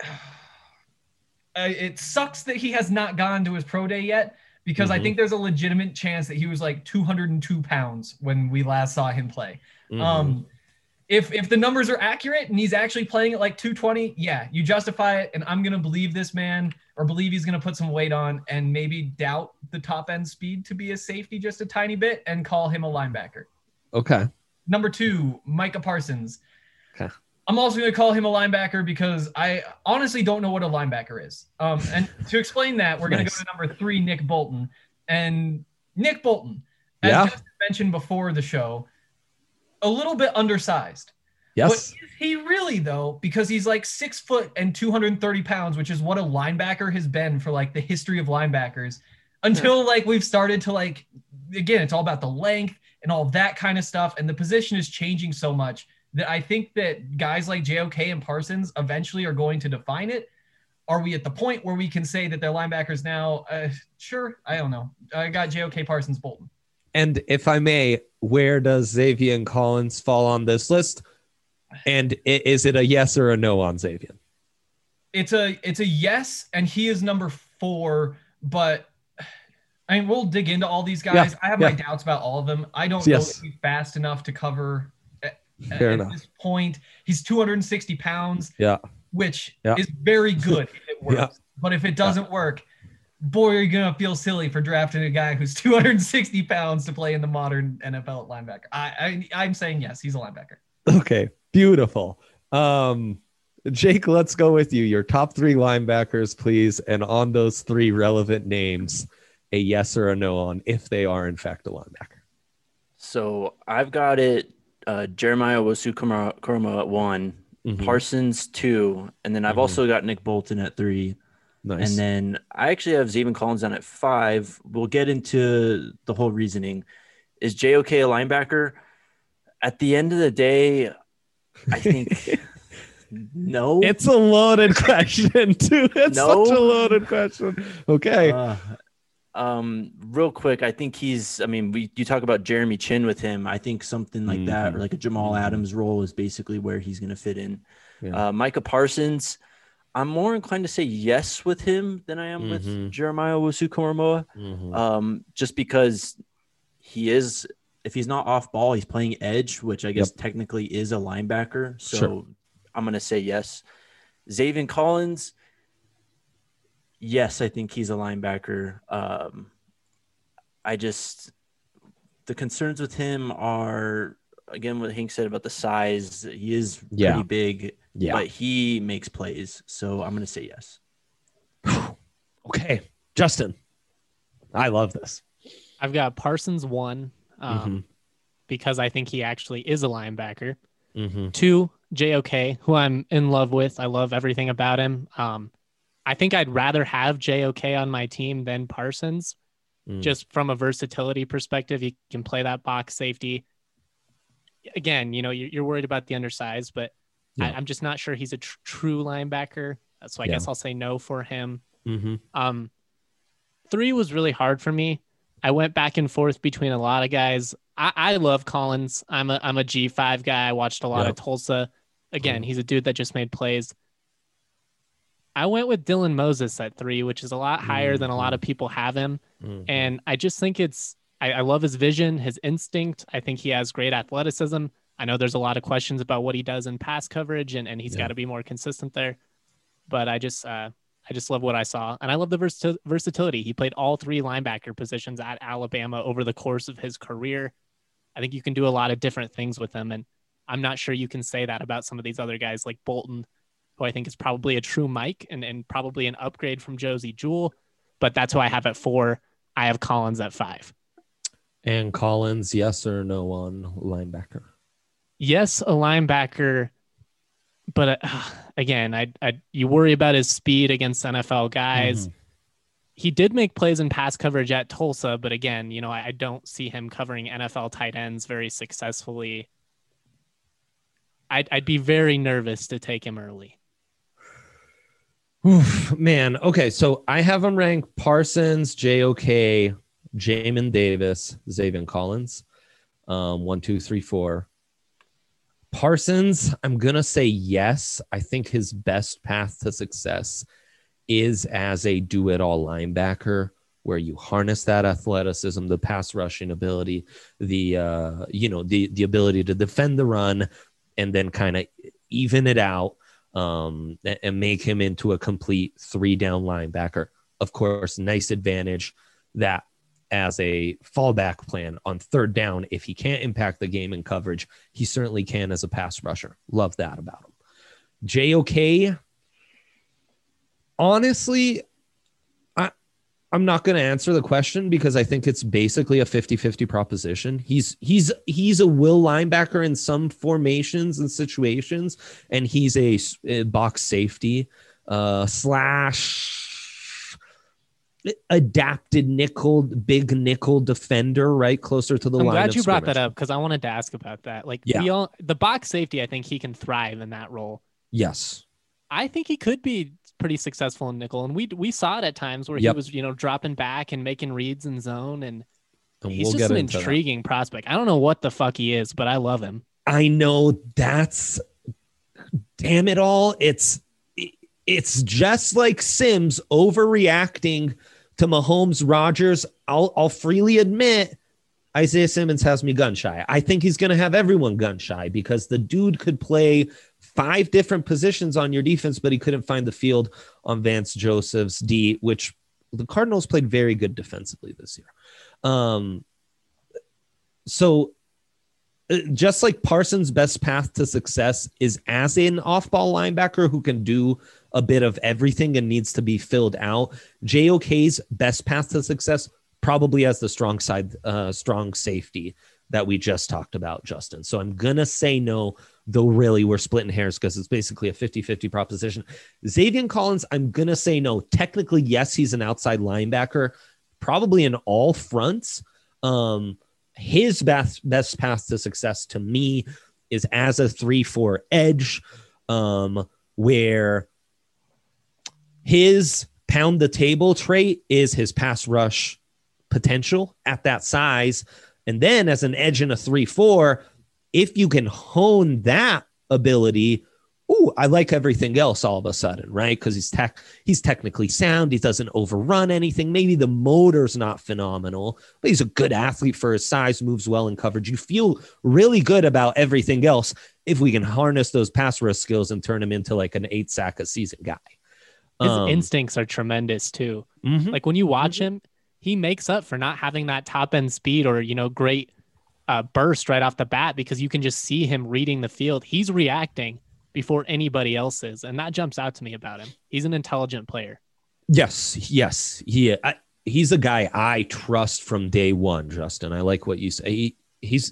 uh, it sucks that he has not gone to his pro day yet, because I Mhm. think there's a legitimate chance that he was like two hundred two pounds when we last saw him play. Mhm. Um, if if the numbers are accurate and he's actually playing at like two twenty, yeah, you justify it, and I'm gonna believe this man, or believe he's gonna put some weight on, and maybe doubt the top end speed to be a safety just a tiny bit, and call him a linebacker. Okay. Number two, Micah Parsons. Okay. I'm also going to call him a linebacker because I honestly don't know what a linebacker is. Um, and to explain that, we're going to Nice. go to number three, Nick Bolton. And Nick Bolton, as Yeah. Justin mentioned before the show, a little bit undersized. Yes. But is he really, though? Because he's like six foot and two hundred thirty pounds, which is what a linebacker has been for like the history of linebackers. Until like we've started to like, again, it's all about the length and all that kind of stuff. And the position is changing so much that I think that guys like J O K and Parsons eventually are going to define it. Are we at the point where we can say that they're linebackers now? Uh, sure. I don't know. I got J O K, Parsons, Bolton. And if I may, where does Xavier Collins fall on this list? And i- is it a yes or a no on Xavier? It's a it's a yes, and he is number four. But I mean, we'll dig into all these guys. Yeah, I have my yeah. doubts about all of them. I don't Yes. know if he's fast enough to cover. At, Fair at enough. this point, he's two hundred sixty pounds, Yeah. which Yeah. is very good if it works. Yeah. But if it doesn't work, boy, are you gonna feel silly for drafting a guy who's two hundred sixty pounds to play in the modern N F L at linebacker. I, I I'm saying yes, he's a linebacker. Okay, beautiful. Um, Jake, let's go with you. Your top three linebackers, please. And on those three relevant names, a yes or a no on if they are in fact a linebacker. So I've got it uh, Jeremiah Owusu-Koramoah at one, mm-hmm. Parsons two, and then I've mm-hmm. also got Nick Bolton at three. Nice. And then I actually have Zaven Collins down at five. We'll get into the whole reasoning. Is J O K a linebacker? At the end of the day, I think no. It's a loaded question, too. It's no? such a loaded question. Okay. Uh, um, real quick, I think he's, I mean, we you talk about Jeremy Chin with him. I think something like mm-hmm. that, or like a Jamal mm-hmm. Adams role is basically where he's going to fit in. Yeah. Uh, Micah Parsons, I'm more inclined to say yes with him than I am mm-hmm. with Jeremiah Owusu-Koramoah. Mm-hmm. Um, just because he is, if he's not off ball, he's playing edge, which I guess yep. technically is a linebacker. So sure. I'm going to say yes. Zaven Collins, yes, I think he's a linebacker. Um, I just, the concerns with him are, again, what Hank said about the size. He is yeah. pretty big, yeah. but he makes plays. So I'm going to say yes. Okay. Justin, I love this. I've got Parsons one, um, mm-hmm. because I think he actually is a linebacker. Mm-hmm. Two, J O K, who I'm in love with. I love everything about him. Um, I think I'd rather have J O K on my team than Parsons, mm. just from a versatility perspective. He can play that box safety. Again, you know, you're, you're worried about the undersized, but yeah. I, I'm just not sure he's a tr- true linebacker. So I yeah. guess I'll say no for him. Mm-hmm. Um, three was really hard for me. I went back and forth between a lot of guys. I, I love Collins. I'm a I'm a G five guy. I watched a lot yep. of Tulsa. Again, mm. he's a dude that just made plays. I went with Dylan Moses at three, which is a lot higher mm-hmm. than a lot of people have him. Mm-hmm. And I just think it's, I, I love his vision, his instinct. I think he has great athleticism. I know there's a lot of questions about what he does in pass coverage, and, and he's yeah. got to be more consistent there. But I just, uh, I just love what I saw. And I love the vers- versatility. He played all three linebacker positions at Alabama over the course of his career. I think you can do a lot of different things with him. And I'm not sure you can say that about some of these other guys like Bolton, who I think is probably a true Mike and, and probably an upgrade from Josie Jewell. But that's who I have at four. I have Collins at five. And Collins, yes or no on linebacker? Yes, a linebacker. But uh, again, I, I you worry about his speed against N F L guys. Mm-hmm. He did make plays in pass coverage at Tulsa, but again, you know, I, I don't see him covering N F L tight ends very successfully. I'd, I'd be very nervous to take him early. Oof, man. Okay. So I have him ranked Parsons, J O K, Jamin Davis, Zaven Collins. Um, one, two, three, four. Parsons, I'm going to say yes. I think his best path to success is as a do-it-all linebacker, where you harness that athleticism, the pass rushing ability, the, uh, you know, the, the ability to defend the run, and then kind of even it out um, and make him into a complete three-down linebacker. Of course, nice advantage that as a fallback plan on third down, if he can't impact the game in coverage, he certainly can as a pass rusher. Love that about him. J O K, honestly, I, I'm not going to answer the question because I think it's basically a fifty-fifty proposition. He's he's he's a will linebacker in some formations and situations, and he's a, a box safety uh, slash adapted nickel, big nickel defender, right closer to the I'm line. I'm glad you scrimmage. brought that up because I wanted to ask about that. Like, yeah. we all, the box safety, I think he can thrive in that role. Yes, I think he could be pretty successful in nickel, and we we saw it at times where yep. he was, you know, dropping back and making reads in zone, and, and he's we'll just an intriguing that. prospect. I don't know what the fuck he is, but I love him. I know that's damn it all. It's it's just like Sims overreacting to Mahomes, Rodgers. I'll I'll freely admit Isaiah Simmons has me gun shy. I think he's going to have everyone gun shy because the dude could play five different positions on your defense, but he couldn't find the field on Vance Joseph's D, which the Cardinals played very good defensively this year. Um, so just like Parsons' best path to success is as an off-ball linebacker who can do a bit of everything and needs to be filled out. J O K's best path to success probably as the strong side, uh, strong safety that we just talked about, Justin. So I'm going to say no, though really we're splitting hairs because it's basically a fifty-fifty proposition. Zaven Collins, I'm going to say no. Technically, yes, he's an outside linebacker, probably in all fronts. Um, his best, best path to success to me is as a three four edge, um, where his pound the table trait is his pass rush potential at that size. And then as an edge in a three four, if you can hone that ability, ooh, I like everything else all of a sudden, right? Because he's tech, he's technically sound. He doesn't overrun anything. Maybe the motor's not phenomenal, but he's a good athlete for his size, moves well in coverage. You feel really good about everything else if we can harness those pass rush skills and turn him into like an eight sack a season guy. His Um, instincts are tremendous too. mhm. Like when you watch him, he makes up for not having that top end speed or, you know, great uh, burst right off the bat because you can just see him reading the field. He's reacting before anybody else is. And that jumps out to me about him. He's an intelligent player. Yes, yes. He, I, he's a guy I trust from day one, Justin. I like what you say. He, he's,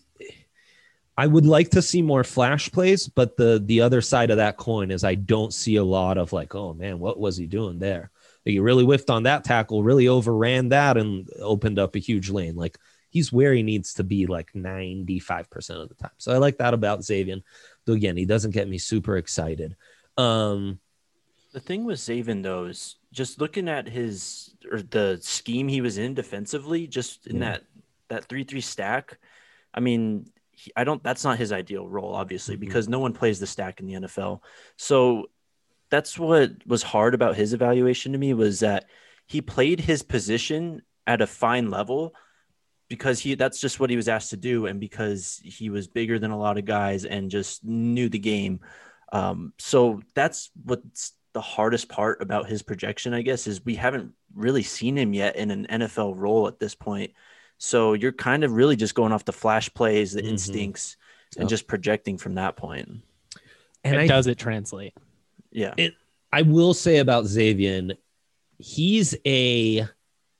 I would like to see more flash plays, but the, the other side of that coin is I don't see a lot of like, oh man, what was he doing there? Like, he really whiffed on that tackle, really overran that and opened up a huge lane. Like, he's where he needs to be like ninety-five percent of the time. So I like that about Zaven. Though again, he doesn't get me super excited. Um, The thing with Zaven, though, is just looking at his or the scheme he was in defensively, just in Yeah. that that three three stack. I mean, he, I don't. That's not his ideal role, obviously, Mhm. because no one plays the stack in the N F L. So that's what was hard about his evaluation to me was that he played his position at a fine level because he that's just what he was asked to do, and because he was bigger than a lot of guys and just knew the game. Um, so that's what's the hardest part about his projection, I guess, is we haven't really seen him yet in an N F L role at this point. So you're kind of really just going off the flash plays, the Mhm. instincts, Yep. and just projecting from that point. and And I, does it translate? Yeah. It, I will say about Zaven, he's a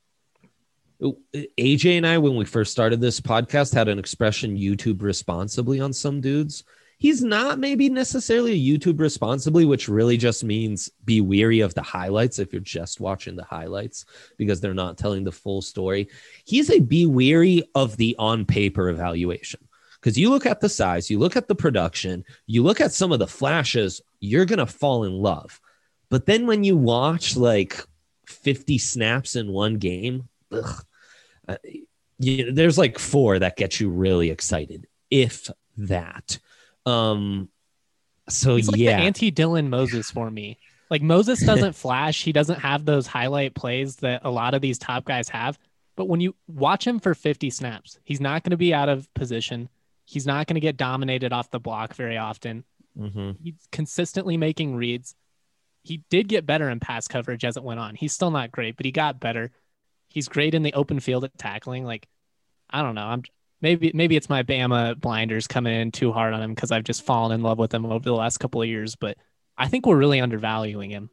A J and I, when we first started this podcast, had an expression YouTube responsibly on some dudes. He's not maybe necessarily a YouTube responsibly, which really just means be weary of the highlights if you're just watching the highlights because they're not telling the full story. He's a be weary of the on paper evaluation. Because you look at the size, you look at the production, you look at some of the flashes, you're going to fall in love. But then when you watch like fifty snaps in one game, ugh, uh, you, there's like four that get you really excited, if that. Um, so He's like yeah, the anti-Dylan Moses for me. Like Moses doesn't flash. He doesn't have those highlight plays that a lot of these top guys have. But when you watch him for fifty snaps, he's not going to be out of position. He's not going to get dominated off the block very often. mm-hmm. He's consistently making reads. He did get better in pass coverage as it went on. He's still not great, but he got better. He's great in the open field at tackling. Like, I don't know. I'm maybe maybe it's my Bama blinders coming in too hard on him because I've just fallen in love with him over the last couple of years. But I think we're really undervaluing him.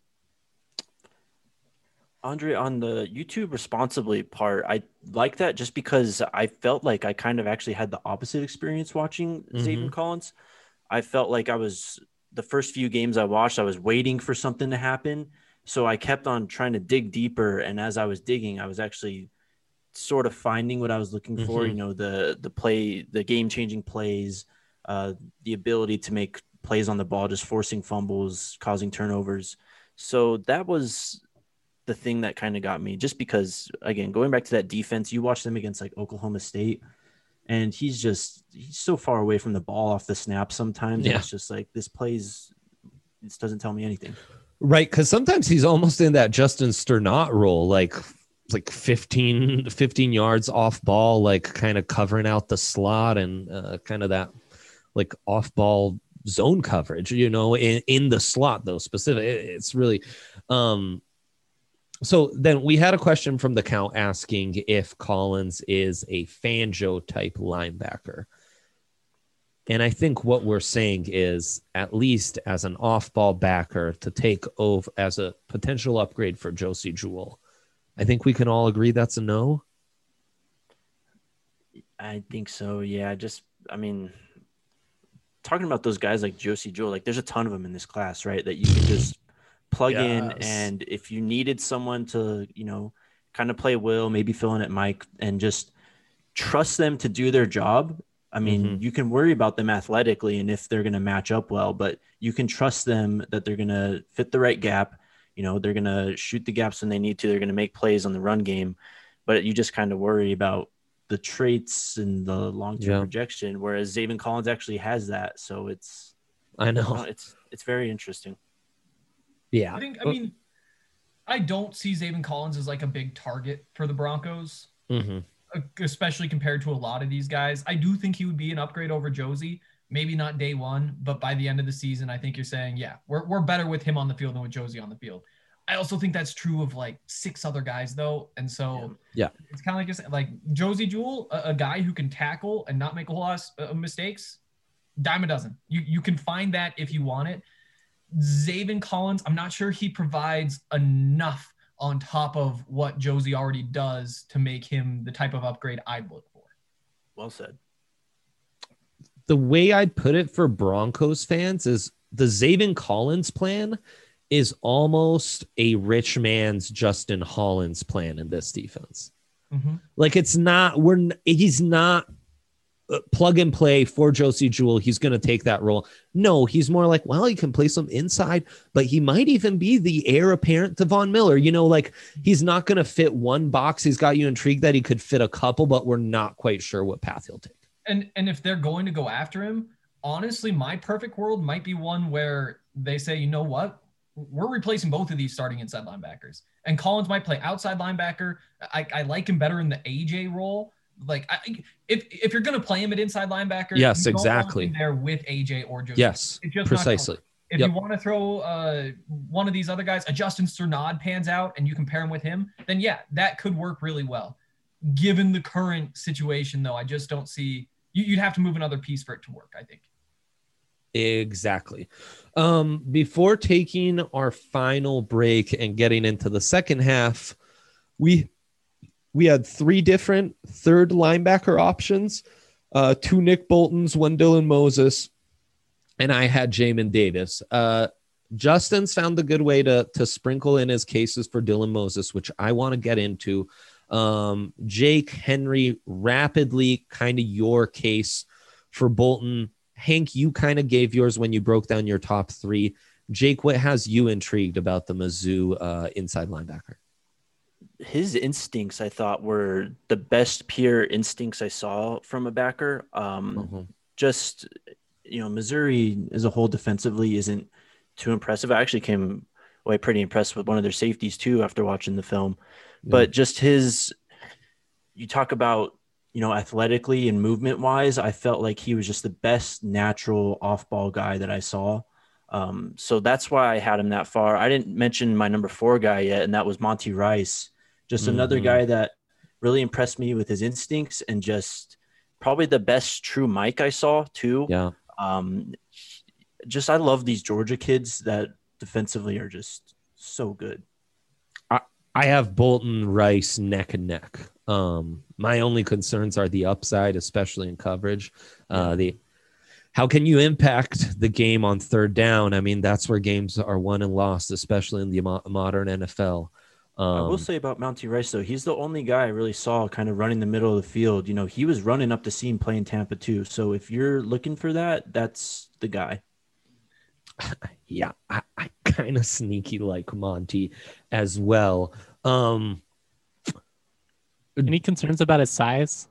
Andre, on the YouTube responsibly part, I like that just because I felt like I kind of actually had the opposite experience watching Mhm. Zaven Collins. I felt like I was the first few games I watched, I was waiting for something to happen. So I kept on trying to dig deeper. And as I was digging, I was actually sort of finding what I was looking for, Mhm. you know, the the play, the game-changing plays, uh, the ability to make plays on the ball, just forcing fumbles, causing turnovers. So that was the thing that kind of got me, just because, again, going back to that defense, you watch them against like Oklahoma State, and he's just he's so far away from the ball off the snap sometimes. Yeah. It's just like this plays, this doesn't tell me anything. Right, because sometimes he's almost in that Justin Sternot role, like like fifteen, fifteen yards off ball, like kind of covering out the slot and uh, kind of that like off ball zone coverage, you know, in, in the slot though specific. It, it's really um so then we had a question from the count asking if Collins is a Fangio type linebacker. And I think what we're saying is, at least as an off-ball backer to take over as a potential upgrade for Josie Jewell, I think we can all agree that's a no. I think so. Yeah. Just, I mean, talking about those guys like Josie Jewell, like there's a ton of them in this class, right? That you can just plug yes. in. And if you needed someone to, you know, kind of play Will, maybe fill in at Mike and just trust them to do their job. I mean, mm-hmm. you can worry about them athletically and if they're going to match up well, but you can trust them that they're going to fit the right gap. You know, they're going to shoot the gaps when they need to. They're going to make plays on the run game, but you just kind of worry about the traits and the long-term yeah. projection, whereas Zaven Collins actually has that. So it's, I know it's, it's very interesting. Yeah. I think, I mean, I don't see Zaven Collins as like a big target for the Broncos. Mm-hmm. Especially compared to a lot of these guys. I do think he would be an upgrade over Josie. Maybe not day one, but by the end of the season, I think you're saying, yeah, we're, we're better with him on the field than with Josie on the field. I also think that's true of like six other guys though. And so yeah, it's kind of like, just like Josie Jewell, a, a guy who can tackle and not make a whole lot of uh, mistakes. Dime a dozen. You, you can find that if you want it. Zaven Collins, I'm not sure he provides enough on top of what Josie already does to make him the type of upgrade I'd look for. Well said. The way I'd put it for Broncos fans is the Zaven Collins plan is almost a rich man's Justin Hollins plan in this defense. Mm-hmm. Like it's not, we're, he's not plug and play for Josie Jewell. He's going to take that role. No, he's more like, well, he can play some inside, but he might even be the heir apparent to Von Miller. You know, like he's not going to fit one box. He's got you intrigued that he could fit a couple, but we're not quite sure what path he'll take. And and if they're going to go after him, honestly, my perfect world might be one where they say, you know what? We're replacing both of these starting inside linebackers. And Collins might play outside linebacker. I, I like him better in the A J role. Like I, if if you're going to play him at inside linebacker, yes, you don't exactly. want him there with A J or Josie. Yes, precisely. If yep. you want to throw uh, one of these other guys, a Justin Strnad pans out and you can pair him with him, then yeah, that could work really well. Given the current situation, though, I just don't see you, you'd have to move another piece for it to work, I think. Exactly. Um, before taking our final break and getting into the second half, we we had three different third linebacker options, uh, two Nick Boltons, one Dylan Moses, and I had Jamin Davis. Uh, Justin's found a good way to, to sprinkle in his cases for Dylan Moses, which I want to get into. Um, Jake, Henry, rapidly kind of your case for Bolton. Hank, you kind of gave yours when you broke down your top three. Jake, what has you intrigued about the Mizzou uh, inside linebacker? His instincts, I thought, were the best pure instincts I saw from a backer. Um, mm-hmm. Just, you know, Missouri as a whole defensively isn't too impressive. I actually came away pretty impressed with one of their safeties too after watching the film. Yeah. But just his, you talk about, you know, athletically and movement wise, I felt like he was just the best natural off-ball guy that I saw. Um, so that's why I had him that far. I didn't mention my number four guy yet, and that was Monty Rice. Just mm-hmm. another guy that really impressed me with his instincts and just probably the best true Mike I saw too. Yeah. Um, just, I love these Georgia kids that defensively are just so good. I, I have Bolton, Rice neck and neck. Um, my only concerns are the upside, especially in coverage. Uh, the how can you impact the game on third down? I mean, that's where games are won and lost, especially in the mo- modern N F L. Um, I will say about Monty Rice, though, he's the only guy I really saw kind of running the middle of the field. You know, he was running up the seam playing Tampa too. So if you're looking for that, that's the guy. Yeah, I, I kind of sneaky like Monty as well. Um, Any concerns about his size?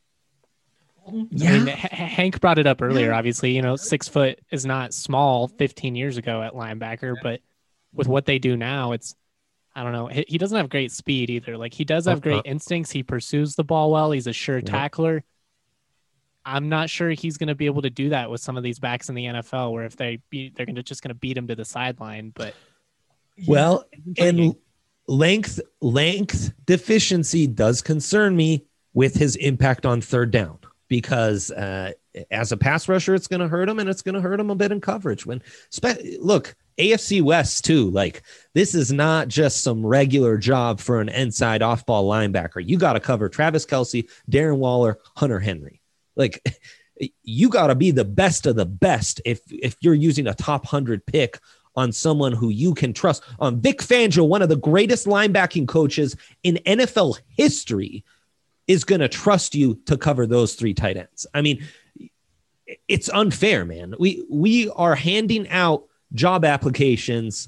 Yeah. I mean, H- Hank brought it up earlier. Obviously, you know, six foot is not small fifteen years ago at linebacker, but with what they do now, it's, I don't know. He, he doesn't have great speed either. Like he does have great instincts. He pursues the ball well. He's a sure yep. tackler. I'm not sure he's going to be able to do that with some of these backs in the N F L, where if they beat, they're going to just going to beat him to the sideline. But well, and length length deficiency does concern me with his impact on third down, because uh, as a pass rusher, it's going to hurt him, and it's going to hurt him a bit in coverage. When look, A F C West too, like this is not just some regular job for an inside off-ball linebacker. You got to cover Travis Kelce, Darren Waller, Hunter Henry. Like you got to be the best of the best if if you're using a top one hundred pick on someone who you can trust. On Vic Fangio, one of the greatest linebacking coaches in N F L history, is going to trust you to cover those three tight ends. I mean, it's unfair, man. We we are handing out job applications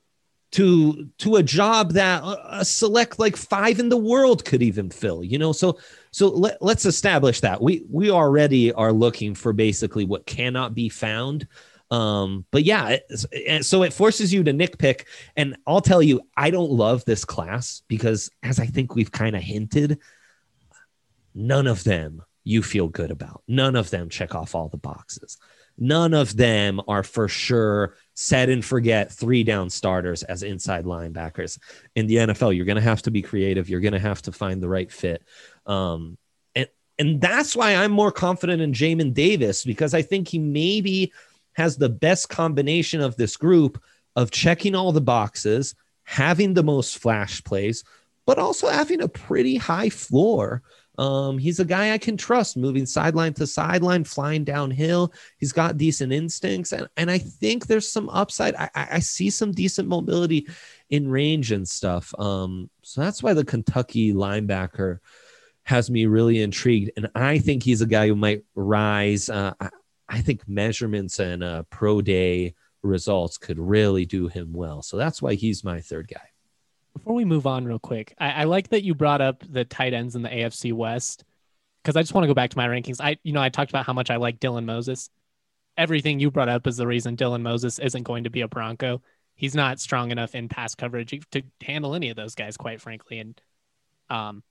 to to a job that a select like five in the world could even fill, you know? So so let, let's establish that. We we already are looking for basically what cannot be found. Um, but yeah, it, so it forces you to nitpick. And I'll tell you, I don't love this class because, as I think we've kind of hinted, none of them you feel good about. None of them check off all the boxes. None of them are for sure set and forget three down starters as inside linebackers in the N F L. You're going to have to be creative. You're going to have to find the right fit. Um, and, and that's why I'm more confident in Jamin Davis, because I think he maybe has the best combination of this group of checking all the boxes, having the most flash plays, but also having a pretty high floor. Um, he's a guy I can trust moving sideline to sideline, flying downhill. He's got decent instincts. And, and I think there's some upside. I, I see some decent mobility in range and stuff. Um, so that's why the Kentucky linebacker has me really intrigued. And I think he's a guy who might rise. Uh, I, I think measurements and uh, pro day results could really do him well. So that's why he's my third guy. Before we move on real quick, I, I like that you brought up the tight ends in the A F C West, because I just want to go back to my rankings. I, you know, I talked about how much I like Dylan Moses. Everything you brought up is the reason Dylan Moses isn't going to be a Bronco. He's not strong enough in pass coverage to handle any of those guys, quite frankly. And um,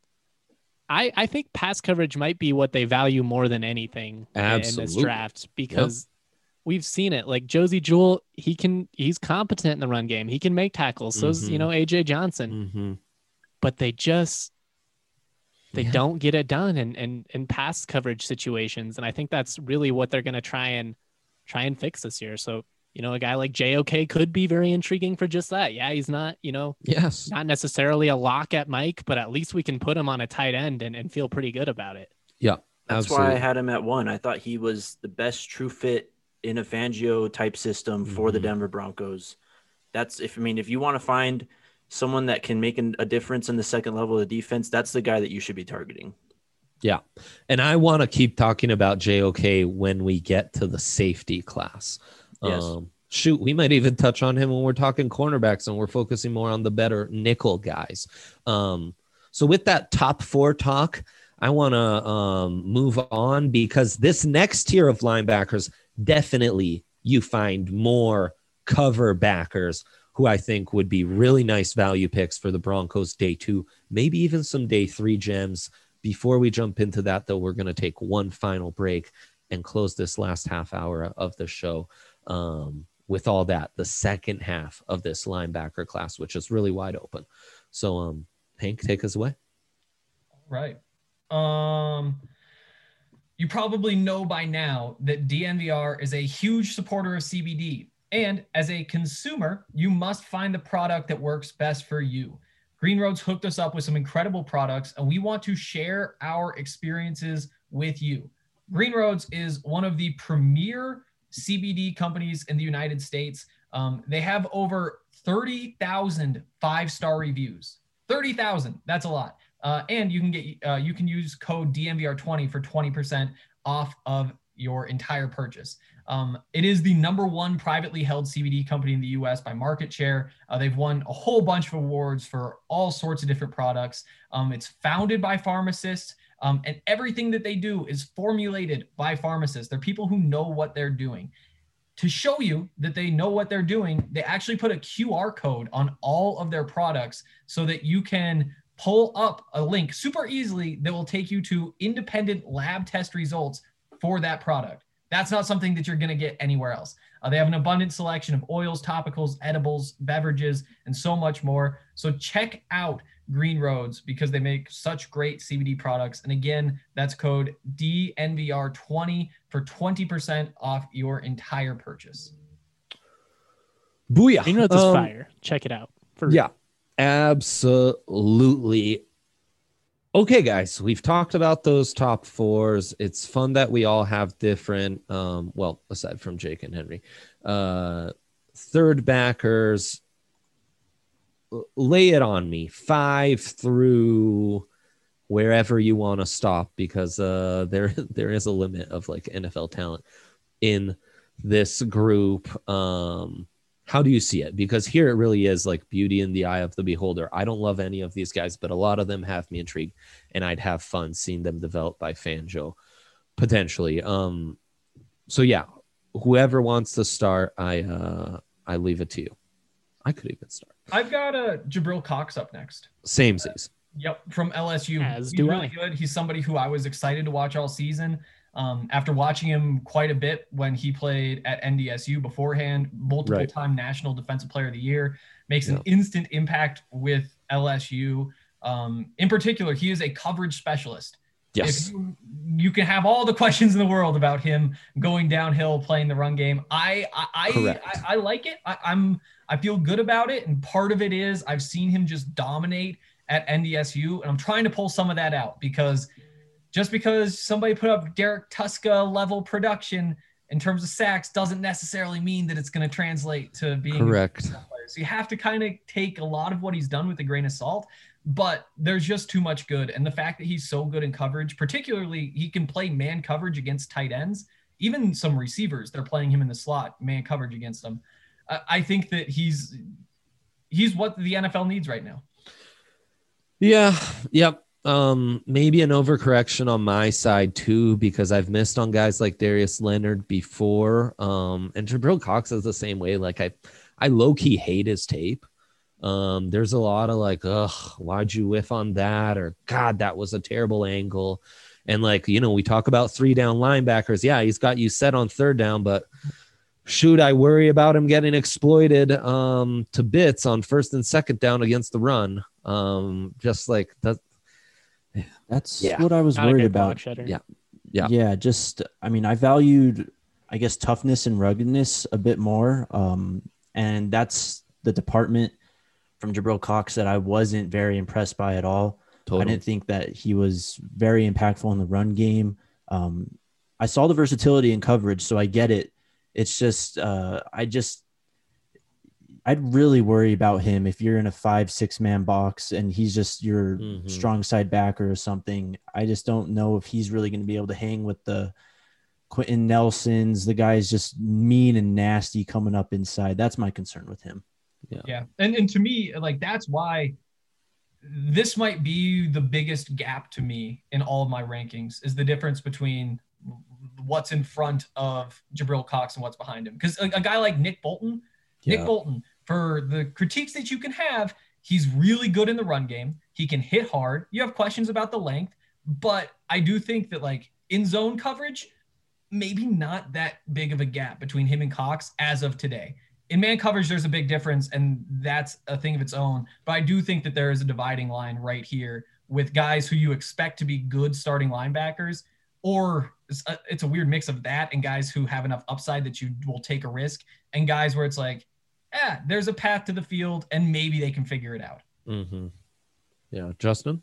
I, I think pass coverage might be what they value more than anything Absolutely. in this draft, because yep. we've seen it. Like Josie Jewell, he can, he's competent in the run game. He can make tackles. So is, mm-hmm. you know, A J Johnson, mm-hmm. but they just, they yeah. don't get it done in, in, in pass coverage situations. And I think that's really what they're going to try and try and fix this year. So, you know, a guy like J O K could be very intriguing for just that. Yeah, he's not, you know, yes, not necessarily a lock at Mike, but at least we can put him on a tight end and, and feel pretty good about it. Yeah, that's absolutely. why I had him at one. I thought he was the best true fit in a Fangio type system for mm-hmm. the Denver Broncos. That's if I mean, if you want to find someone that can make an, a difference in the second level of the defense, that's the guy that you should be targeting. Yeah. And I want to keep talking about J O K when we get to the safety class. Yes. Um, shoot, we might even touch on him when we're talking cornerbacks and we're focusing more on the better nickel guys. Um, so with that top four talk, I want to um, move on, because this next tier of linebackers, definitely you find more cover backers who I think would be really nice value picks for the Broncos day two, maybe even some day three gems. Before we jump into that, though, we're going to take one final break and close this last half hour of the show um, with all that, the second half of this linebacker class, which is really wide open. So, um, Hank, take us away. All right. Um, you probably know by now that D N V R is a huge supporter of C B D. And as a consumer, you must find the product that works best for you. Green Roads hooked us up with some incredible products, and we want to share our experiences with you. Green Roads is one of the premier C B D companies in the United States. Um, they have over thirty thousand five-star reviews. thirty thousand, that's a lot. Uh, and you can get uh, you can use code D N V R twenty for twenty percent off of your entire purchase. Um, it is the number one privately held C B D company in the U S by market share. Uh, they've won a whole bunch of awards for all sorts of different products. Um, it's founded by pharmacists, um, and everything that they do is formulated by pharmacists. They're people who know what they're doing. To show you that they know what they're doing, they actually put a Q R code on all of their products so that you can pull up a link super easily that will take you to independent lab test results for that product. That's not something that you're going to get anywhere else. Uh, they have an abundant selection of oils, topicals, edibles, beverages, and so much more. So check out Green Roads because they make such great C B D products. And again, that's code D N V R twenty for twenty percent off your entire purchase. Booyah. Green Roads is Um, fire. Check it out. For Yeah, absolutely. Okay, guys, we've talked about those top fours. It's fun that we all have different, um, well, aside from Jake and Henry, uh, third backers. Lay it on me, five through wherever you want to stop, because uh, there there is a limit of like N F L talent in this group. Um, how do you see it? Because here it really is like beauty in the eye of the beholder. I don't love any of these guys, but a lot of them have me intrigued, and I'd have fun seeing them developed by Fangio potentially. Um, so yeah, whoever wants to start, I uh, I leave it to you. I could even start. I've got uh, Jabril Cox up next. Samesies. Yep, from L S U. As He's do really I. good. He's somebody who I was excited to watch all season. Um, after watching him quite a bit when he played at N D S U beforehand, multiple Right. time National Defensive Player of the Year, makes Yeah. an instant impact with L S U. Um, in particular, he is a coverage specialist. Yes. If you, you can have all the questions in the world about him going downhill, playing the run game. I I I, Correct. I, I like it. I, I'm I feel good about it, and part of it is I've seen him just dominate at N D S U, and I'm trying to pull some of that out because just because somebody put up Derek Tuska level production in terms of sacks doesn't necessarily mean that it's going to translate to being Correct. a player. So you have to kind of take a lot of what he's done with a grain of salt. But there's just too much good. And the fact that he's so good in coverage, particularly he can play man coverage against tight ends, even some receivers that are playing him in the slot, man coverage against them. I, I think that he's he's what the N F L needs right now. Yeah. Yep. Um, maybe an overcorrection on my side too, because I've missed on guys like Darius Leonard before. Um, and Jabril Cox is the same way. Like I, I low key hate his tape. Um, there's a lot of like, ugh, why'd you whiff on that? Or God, that was a terrible angle. And like, you know, we talk about three down linebackers. Yeah, he's got you set on third down, but shoot, I worry about him getting exploited um, to bits on first and second down against the run. Um, just like that. That's Yeah. what I was Not a worried good block about. shedder. Yeah. Yeah. Yeah, just I mean, I valued, I guess, toughness and ruggedness a bit more, um, and that's the department from Jabril Cox that I wasn't very impressed by at all. Totally. I didn't think that he was very impactful in the run game. Um, I saw the versatility in coverage, so I get it. It's just uh, I just I'd really worry about him if you're in a five, six man box and he's just your Mhm. strong side backer or something. I just don't know if he's really going to be able to hang with the Quentin Nelsons. The guy's just mean and nasty coming up inside. That's my concern with him. Yeah. And and to me, like that's why this might be the biggest gap to me in all of my rankings is the difference between what's in front of Jabril Cox and what's behind him. Because a, a guy like Nick Bolton, Nick Yeah. Bolton, for the critiques that you can have, he's really good in the run game. He can hit hard. You have questions about the length, but I do think that like in zone coverage, maybe not that big of a gap between him and Cox as of today. In man coverage, there's a big difference, and that's a thing of its own. But I do think that there is a dividing line right here with guys who you expect to be good starting linebackers, or it's a, it's a weird mix of that and guys who have enough upside that you will take a risk, and guys where it's like, yeah, there's a path to the field, and maybe they can figure it out. Mm-hmm. Yeah. Justin?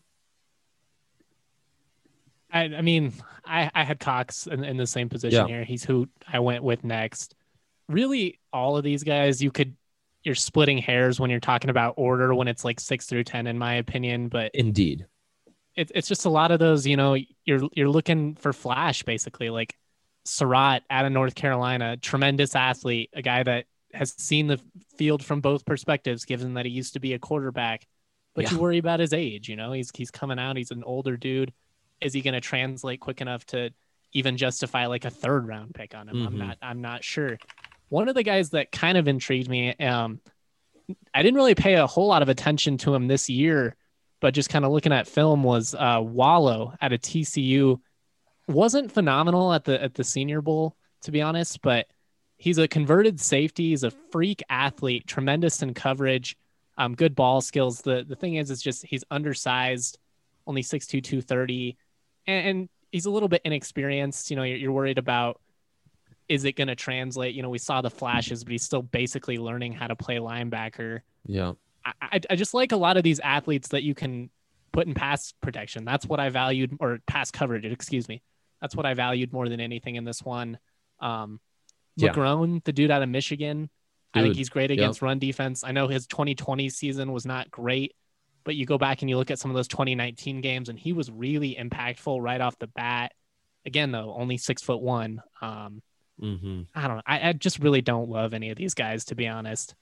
I, I mean, I, I had Cox in, in the same position Yeah. here. He's who I went with next. Really, all of these guys, you could, you're splitting hairs when you're talking about order when it's like six through ten, in my opinion. But Indeed. it, it's just a lot of those, you know, you're you're looking for flash, basically. Like Surratt out of North Carolina, tremendous athlete, a guy that has seen the field from both perspectives, given that he used to be a quarterback. But Yeah. you worry about his age, you know, he's he's coming out, he's an older dude. Is he going to translate quick enough to even justify like a third round pick on him? Mhm. I'm not I'm not sure. One of the guys that kind of intrigued me, um, I didn't really pay a whole lot of attention to him this year, but just kind of looking at film was uh, Wallow out of T C U. Wasn't phenomenal at the at the Senior Bowl, to be honest, but he's a converted safety. He's a freak athlete, tremendous in coverage. Um, good ball skills. The the thing is, it's just he's undersized, only six two, two thirty, and, and he's a little bit inexperienced. You know, you're, you're worried about, is it going to translate? You know, we saw the flashes, but he's still basically learning how to play linebacker. Yeah. I, I, I just like a lot of these athletes that you can put in pass protection. That's what I valued, or pass coverage, excuse me. That's what I valued more than anything in this one. Um, Yeah. McGrone, the dude out of Michigan, I Dude, think he's great against yep. run defense. I know his twenty twenty season was not great, but you go back and you look at some of those twenty nineteen games, and he was really impactful right off the bat. Again, though, only six foot one. Um, Mm-hmm. I don't know. I, I just really don't love any of these guys, to be honest.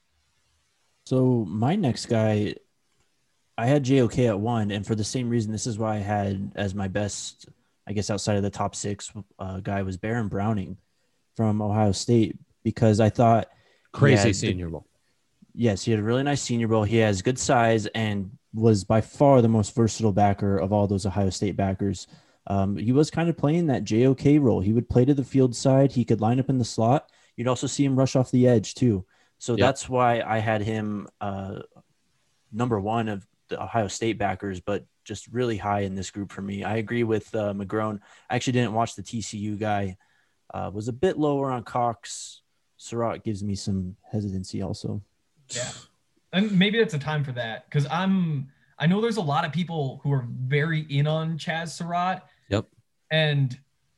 So my next guy, I had J O K at one, and for the same reason, this is why I had as my best, I guess, outside of the top six uh, guy was Baron Browning from Ohio State, because I thought Crazy had, Senior Bowl. Yes, he had a really nice Senior Bowl. He has good size and was by far the most versatile backer of all those Ohio State backers. Um, he was kind of playing that J O K role. He would play to the field side. He could line up in the slot. You'd also see him rush off the edge too. So Yep. that's why I had him uh, number one of the Ohio State backers, but just really high in this group for me. I agree with uh, McGrone. I actually didn't watch the T C U guy. Uh, was a bit lower on Cox. Surratt gives me some hesitancy also. Yeah. And maybe it's a time for that, because I'm I know there's a lot of people who are very in on Chaz Surratt. Yep. And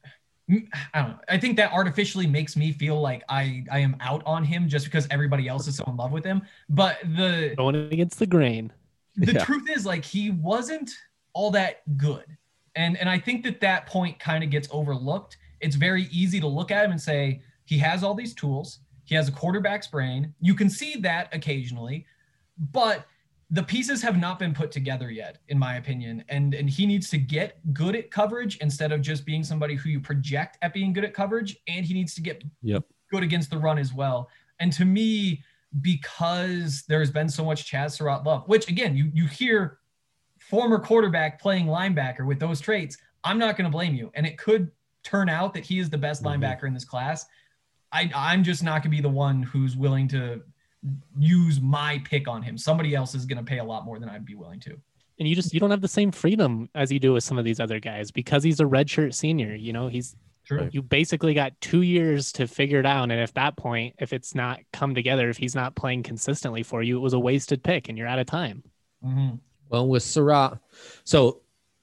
I don't know. I think that artificially makes me feel like I, I am out on him just because everybody else is so in love with him. But the Going against the grain. the Yeah. truth is, like, he wasn't all that good. And and I think that that point kind of gets overlooked. It's very easy to look at him and say, he has all these tools. He has a quarterback's brain. You can see that occasionally, but the pieces have not been put together yet, in my opinion. And, and he needs to get good at coverage instead of just being somebody who you project at being good at coverage. And he needs to get Yep. good against the run as well. And to me, because there's been so much Chaz Surratt love, which again, you, you hear former quarterback playing linebacker with those traits, I'm not going to blame you. And it could turn out that he is the best Mm-hmm. linebacker in this class. I, I'm just not going to be the one who's willing to use my pick on him. Somebody else is going to pay a lot more than I'd be willing to. And you just, you don't have the same freedom as you do with some of these other guys because he's a redshirt senior. You know, he's, True. you basically got two years to figure it out. And at that point, if it's not come together, if he's not playing consistently for you, it was a wasted pick and you're out of time. Mm-hmm. Well, with Surratt, so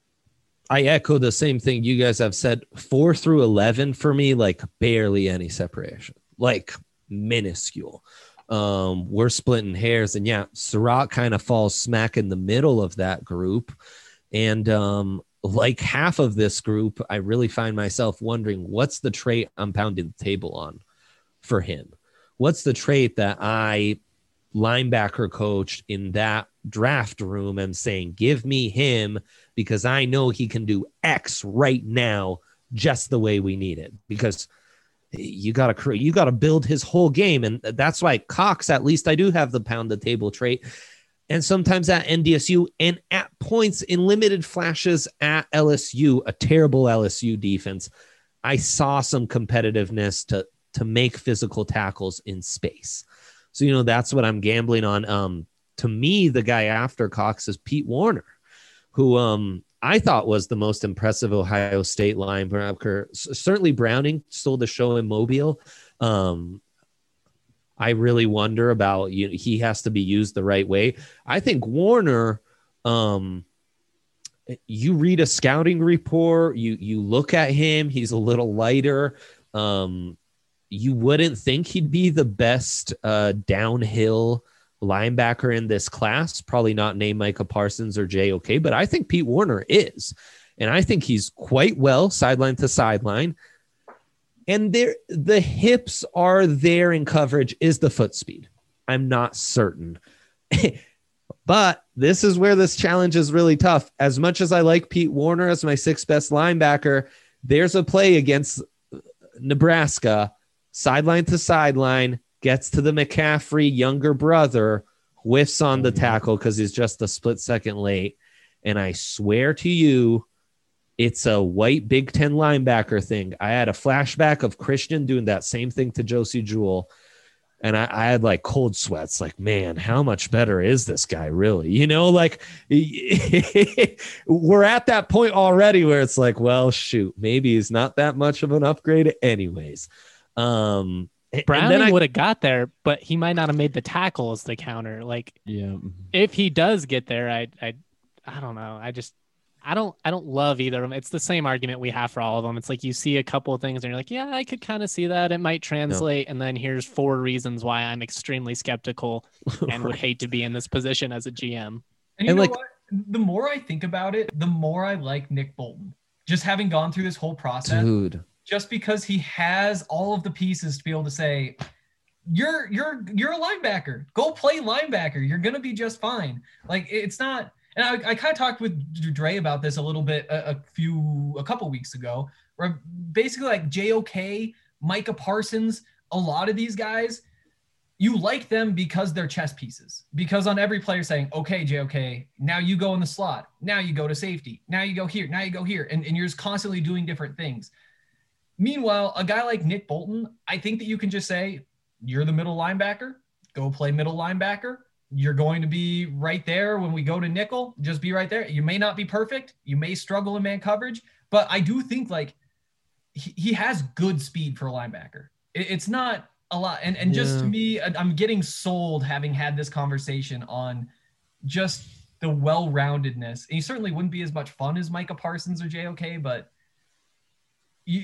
I echo the same thing you guys have said. Four through eleven for me, like barely any separation, like minuscule. Um, we're splitting hairs, and yeah, Surratt kind of falls smack in the middle of that group. And um, like half of this group, I really find myself wondering, what's the trait I'm pounding the table on for him? What's the trait that I linebacker coached in that draft room and saying, give me him because I know he can do X right now, just the way we need it. Because you got to create, you got to build his whole game. And that's why Cox, at least I do have the pound the table trait. And sometimes at N D S U and at points in limited flashes at L S U, a terrible L S U defense, I saw some competitiveness to, to make physical tackles in space. So, you know, that's what I'm gambling on. Um, to me, the guy after Cox is Pete Warner, who um, I thought was the most impressive Ohio State linebacker. S- certainly Browning stole the show in Mobile. Um, I really wonder about, you know, he has to be used the right way. I think Warner, um, you read a scouting report, you, you look at him, he's a little lighter. Um, you wouldn't think he'd be the best uh, downhill linebacker in this class, probably not named Micah Parsons or J O K, but I think Pete Warner is. And I think he's quite well sideline to sideline. And there, the hips are there in coverage. Is the foot speed? I'm not certain. But this is where this challenge is really tough. As much as I like Pete Warner as my sixth best linebacker, there's a play against Nebraska, sideline to sideline, gets to the McCaffrey younger brother, whiffs on the tackle because he's just a split second late. And I swear to you, it's a white Big Ten linebacker thing. I had a flashback of Christian doing that same thing to Josie Jewell. And I, I had like cold sweats, like, man, how much better is this guy really? You know, like we're at that point already where it's like, well, shoot, maybe he's not that much of an upgrade anyways. Um, Browning would have got there, but he might not have made the tackle as the counter. Like, yeah, if he does get there, I, I, I don't know. I just, I don't, I don't love either of them. It's the same argument we have for all of them. It's like you see a couple of things and you're like, yeah, I could kind of see that. It might translate. No. And then here's four reasons why I'm extremely skeptical and right. would hate to be in this position as a G M. And you and know like, what? The more I think about it, the more I like Nick Bolton. Just having gone through this whole process, dude. Just because he has all of the pieces to be able to say, you're you're you're a linebacker. Go play linebacker. You're gonna be just fine. Like it's not. And I, I kind of talked with Dre about this a little bit a, a few, a couple weeks ago, where basically like J O K, Micah Parsons, a lot of these guys, you like them because they're chess pieces. Because on every player saying, okay, J O K, now you go in the slot. Now you go to safety. Now you go here. Now you go here. And, and you're just constantly doing different things. Meanwhile, a guy like Nick Bolton, I think that you can just say, you're the middle linebacker. Go play middle linebacker. You're going to be right there when we go to nickel. Just be right there. You may not be perfect. You may struggle in man coverage, but I do think like he, he has good speed for a linebacker. It, it's not a lot. And, and yeah. just to me, I'm getting sold having had this conversation on just the well-roundedness. And he certainly wouldn't be as much fun as Micah Parsons or J O K, but you,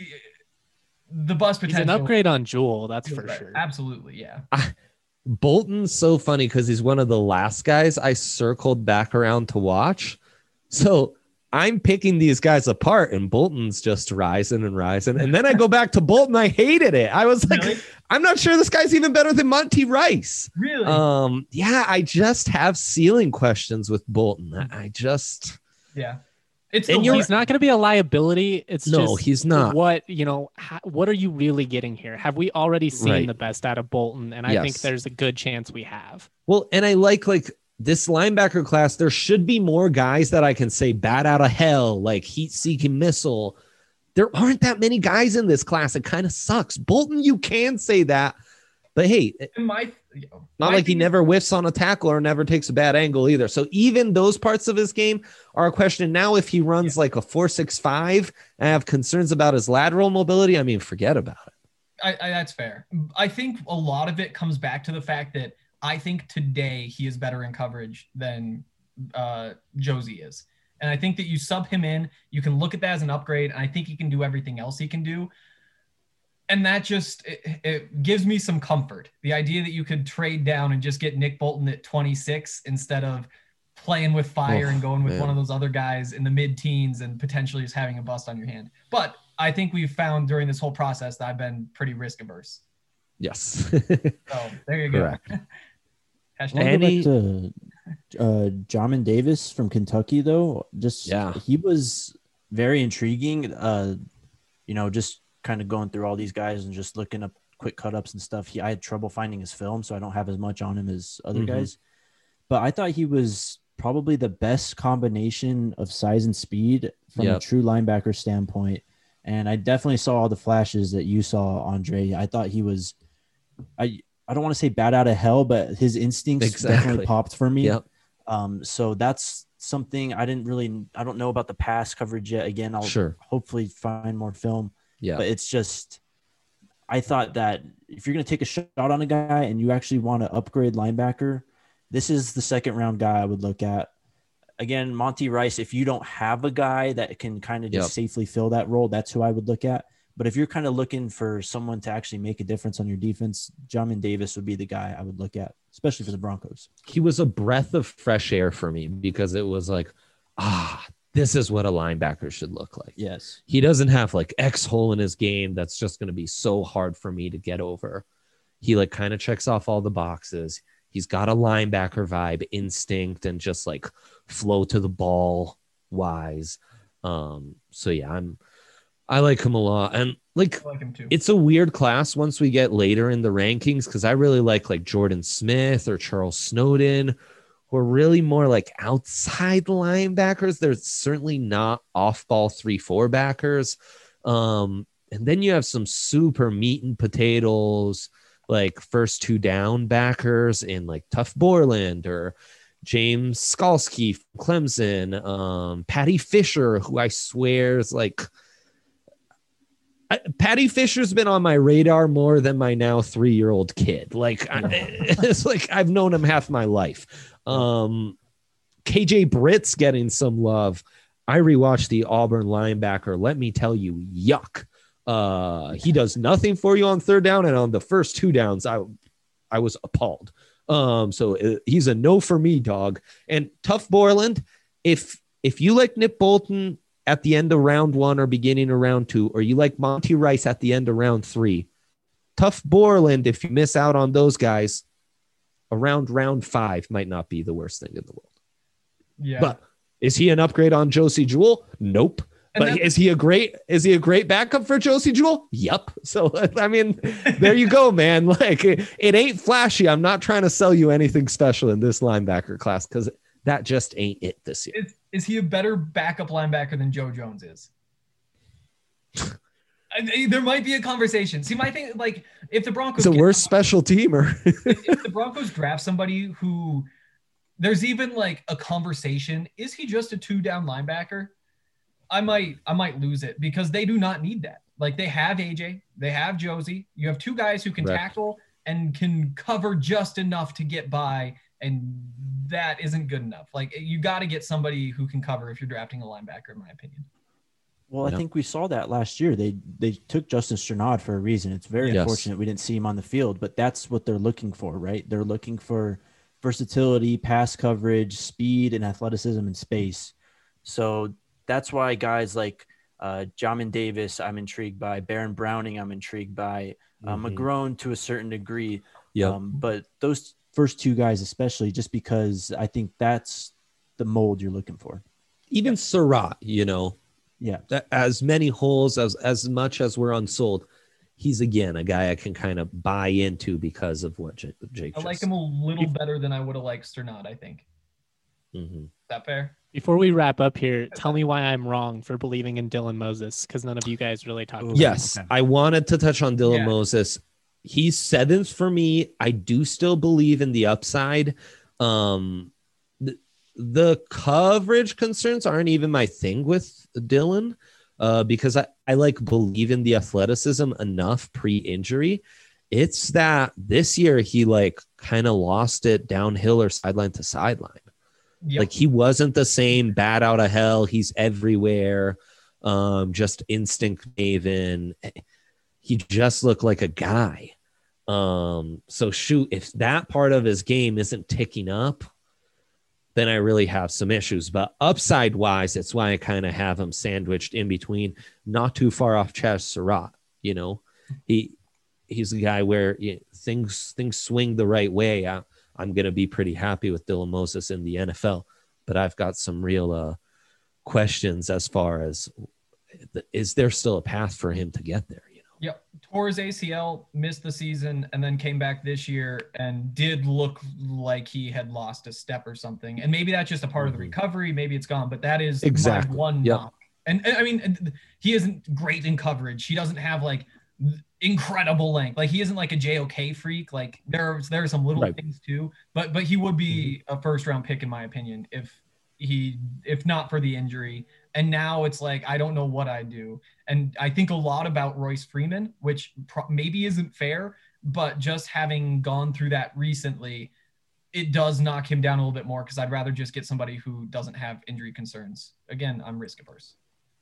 the bus potential. He's an upgrade on Jewel. That's for better. Sure. Absolutely. Yeah. I, Bolton's so funny because he's one of the last guys I circled back around to watch. So I'm picking these guys apart and Bolton's just rising and rising. And then I go back to Bolton. I hated it. I was like, really? I'm not sure this guy's even better than Monty Rice. Really? Um, yeah, I just have ceiling questions with Bolton. I just, yeah. It's and he's not going to be a liability. It's no, just he's not. What, you know, how, what are you really getting here? Have we already seen right. the best out of Bolton? And I yes. think there's a good chance we have. Well, and I like, like this linebacker class, there should be more guys that I can say bat out of hell, like heat seeking missile. There aren't that many guys in this class. It kind of sucks. Bolton, you can say that, but hey, my, not my like he never whiffs on a tackle or never takes a bad angle either. So even those parts of his game are a question. Now, if he runs yeah. like a four six five, I have concerns about his lateral mobility. I mean, forget about it. I, I, that's fair. I think a lot of it comes back to the fact that I think today he is better in coverage than uh, Josie is. And I think that you sub him in, you can look at that as an upgrade. And I think he can do everything else he can do. And that just, it, it gives me some comfort. The idea that you could trade down and just get Nick Bolton at twenty-six instead of playing with fire oh, and going with man. one of those other guys in the mid-teens and potentially just having a bust on your hand. But I think we've found during this whole process that I've been pretty risk averse. Yes. So there you go. Correct. Any to uh, Jamin Davis from Kentucky, though, just yeah, he was very intriguing. Uh, you know, just kind of going through all these guys and just looking up quick cut ups and stuff. He, I had trouble finding his film, so I don't have as much on him as other mm-hmm. guys. But I thought he was probably the best combination of size and speed from yep. a true linebacker standpoint. And I definitely saw all the flashes that you saw, Andre. I thought he was, I I don't want to say bat out of hell, but his instincts exactly. definitely popped for me. Yep. Um, so that's something I didn't really, I don't know about the pass coverage yet. Again, I'll sure. hopefully find more film. Yeah. But it's just, I thought that if you're going to take a shot on a guy and you actually want to upgrade linebacker, this is the second round guy I would look at. Again, Monty Rice, if you don't have a guy that can kind of just yep. safely fill that role, that's who I would look at. But if you're kind of looking for someone to actually make a difference on your defense, Jamin Davis would be the guy I would look at, especially for the Broncos. He was a breath of fresh air for me because it was like, ah, this is what a linebacker should look like. Yes. He doesn't have like X hole in his game that's just going to be so hard for me to get over. He like kind of checks off all the boxes. He's got a linebacker vibe, instinct, and just like flow to the ball wise. Um, so yeah, I'm, I like him a lot. And like, I like him too. It's a weird class once we get later in the rankings, because I really like like Jordan Smith or Charles Snowden, who are really more like outside linebackers. They're certainly not off ball three, four backers. Um, and then you have some super meat and potatoes like first two down backers in like Tuff Borland or James Skalski from Clemson, um, Patty Fisher, who I swear is like, I, Patty Fisher's been on my radar more than my now three-year-old kid. Like, yeah. I, it's like I've known him half my life. Um, K J Britt's getting some love. I rewatched the Auburn linebacker. Let me tell you, yuck. Uh, he does nothing for you on third down, and on the first two downs, I, I was appalled. Um, so uh, he's a no for me, dog. And Tuff Borland, if if you like Nick Bolton at the end of round one or beginning of round two, or you like Monty Rice at the end of round three, Tuff Borland, if you miss out on those guys, around round five might not be the worst thing in the world. Yeah. But is he an upgrade on Josie Jewell? Nope. And but is he a great is he a great backup for Josie Jewell? Yep. So I mean, there you go, man. Like it, it ain't flashy. I'm not trying to sell you anything special in this linebacker class because that just ain't it this year. Is, is he a better backup linebacker than Joe Jones is? I, there might be a conversation. See, my thing, like, if the Broncos, it's a worse special teamer. if, if the Broncos draft somebody who, there's even like a conversation. Is he just a two down linebacker? I might, I might lose it because they do not need that. Like they have A J, they have Josie. You have two guys who can right. tackle and can cover just enough to get by. And that isn't good enough. Like you got to get somebody who can cover if you're drafting a linebacker, in my opinion. Well, I yep. think we saw that last year. They they took Justin Strnad for a reason. It's very yes. unfortunate we didn't see him on the field, but that's what they're looking for, right? They're looking for versatility, pass coverage, speed, and athleticism in space. So that's why guys like uh, Jamin Davis, I'm intrigued by. Baron Browning, I'm intrigued by. Uh, mm-hmm. McGrone to a certain degree. Yep. Um, but those first two guys especially, just because I think that's the mold you're looking for. Even Surratt, you know. Yeah. As many holes, as as much as we're unsold, he's, again, a guy I can kind of buy into because of what Jake, Jake I like just, him a little better than I would have liked Strnad, I think. Mm-hmm. Is that fair? Before we wrap up here, tell me why I'm wrong for believing in Dylan Moses, because none of you guys really talked about Yes, him. Okay. I wanted to touch on Dylan yeah. Moses. He's seventh for me. I do still believe in the upside. Um, the, the coverage concerns aren't even my thing with Dylan uh, because I, I like believe in the athleticism enough pre-injury. It's that this year he like kind of lost it downhill or sideline to sideline. Yep. Like he wasn't the same bat out of hell. He's everywhere. Um, just instinct maven. He just looked like a guy. Um, so shoot, if that part of his game isn't ticking up, then I really have some issues. But upside wise, it's why I kind of have him sandwiched in between, not too far off Chaz Surratt. You know, he he's a guy where you know, things things swing the right way. I, I'm going to be pretty happy with Dylan Moses in the N F L, but I've got some real uh, questions as far as is there still a path for him to get there? You know? Yep. Tore his A C L, missed the season, and then came back this year and did look like he had lost a step or something. And maybe that's just a part mm-hmm. of the recovery. Maybe it's gone, but that is exactly my one yep. knock. And, and I mean, he isn't great in coverage. He doesn't have like incredible length. Like he isn't like a J O K freak. Like there's there are some little right. things too, but but he would be mm-hmm. a first round pick in my opinion if he if not for the injury. And now it's like I don't know what I do. And I think a lot about Royce Freeman, which pro- maybe isn't fair, but just having gone through that recently, it does knock him down a little bit more because I'd rather just get somebody who doesn't have injury concerns. Again, I'm risk averse.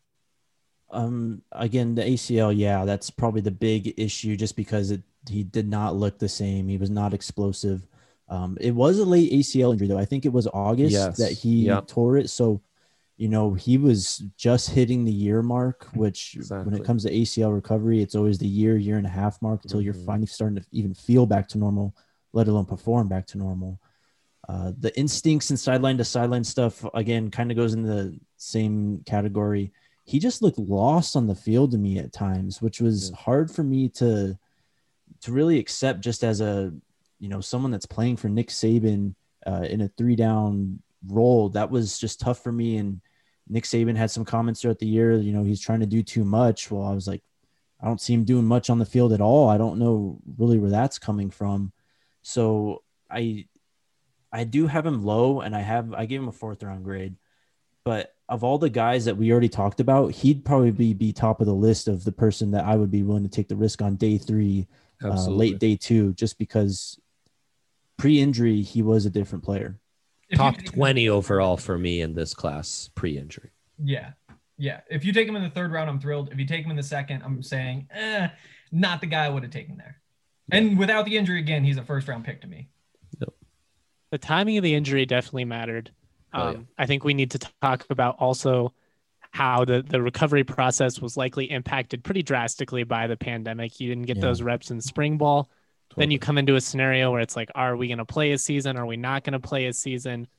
Um, again, the A C L, yeah, that's probably the big issue just because it, he did not look the same. He was not explosive. Um, it was a late A C L injury though. I think it was August yes. that he yep. tore it. So, you know, he was just hitting the year mark, which exactly. when it comes to A C L recovery, it's always the year, year and a half mark until mm-hmm. you're finally starting to even feel back to normal, let alone perform back to normal. Uh, the instincts and sideline to sideline stuff, again, kind of goes in the same category. He just looked lost on the field to me at times, which was yeah. hard for me to to really accept just as a, you know, someone that's playing for Nick Saban uh, in a three down role. That was just tough for me. And Nick Saban had some comments throughout the year, you know, he's trying to do too much. Well, I was like, I don't see him doing much on the field at all. I don't know really where that's coming from. So I I do have him low, and I have I gave him a fourth round grade. But of all the guys that we already talked about, he'd probably be, be top of the list of the person that I would be willing to take the risk on day three, uh, late day two, just because pre-injury he was a different player. Top twenty overall for me in this class pre-injury. Yeah. Yeah. If you take him in the third round, I'm thrilled. If you take him in the second, I'm saying, eh, not the guy I would have taken there. Yeah. And without the injury, again, he's a first round pick to me. Yep. The timing of the injury definitely mattered. Um, oh, yeah. I think we need to talk about also how the, the recovery process was likely impacted pretty drastically by the pandemic. You didn't get yeah. those reps in spring ball. Totally. Then you come into a scenario where it's like, are we going to play a season? Are we not going to play a season?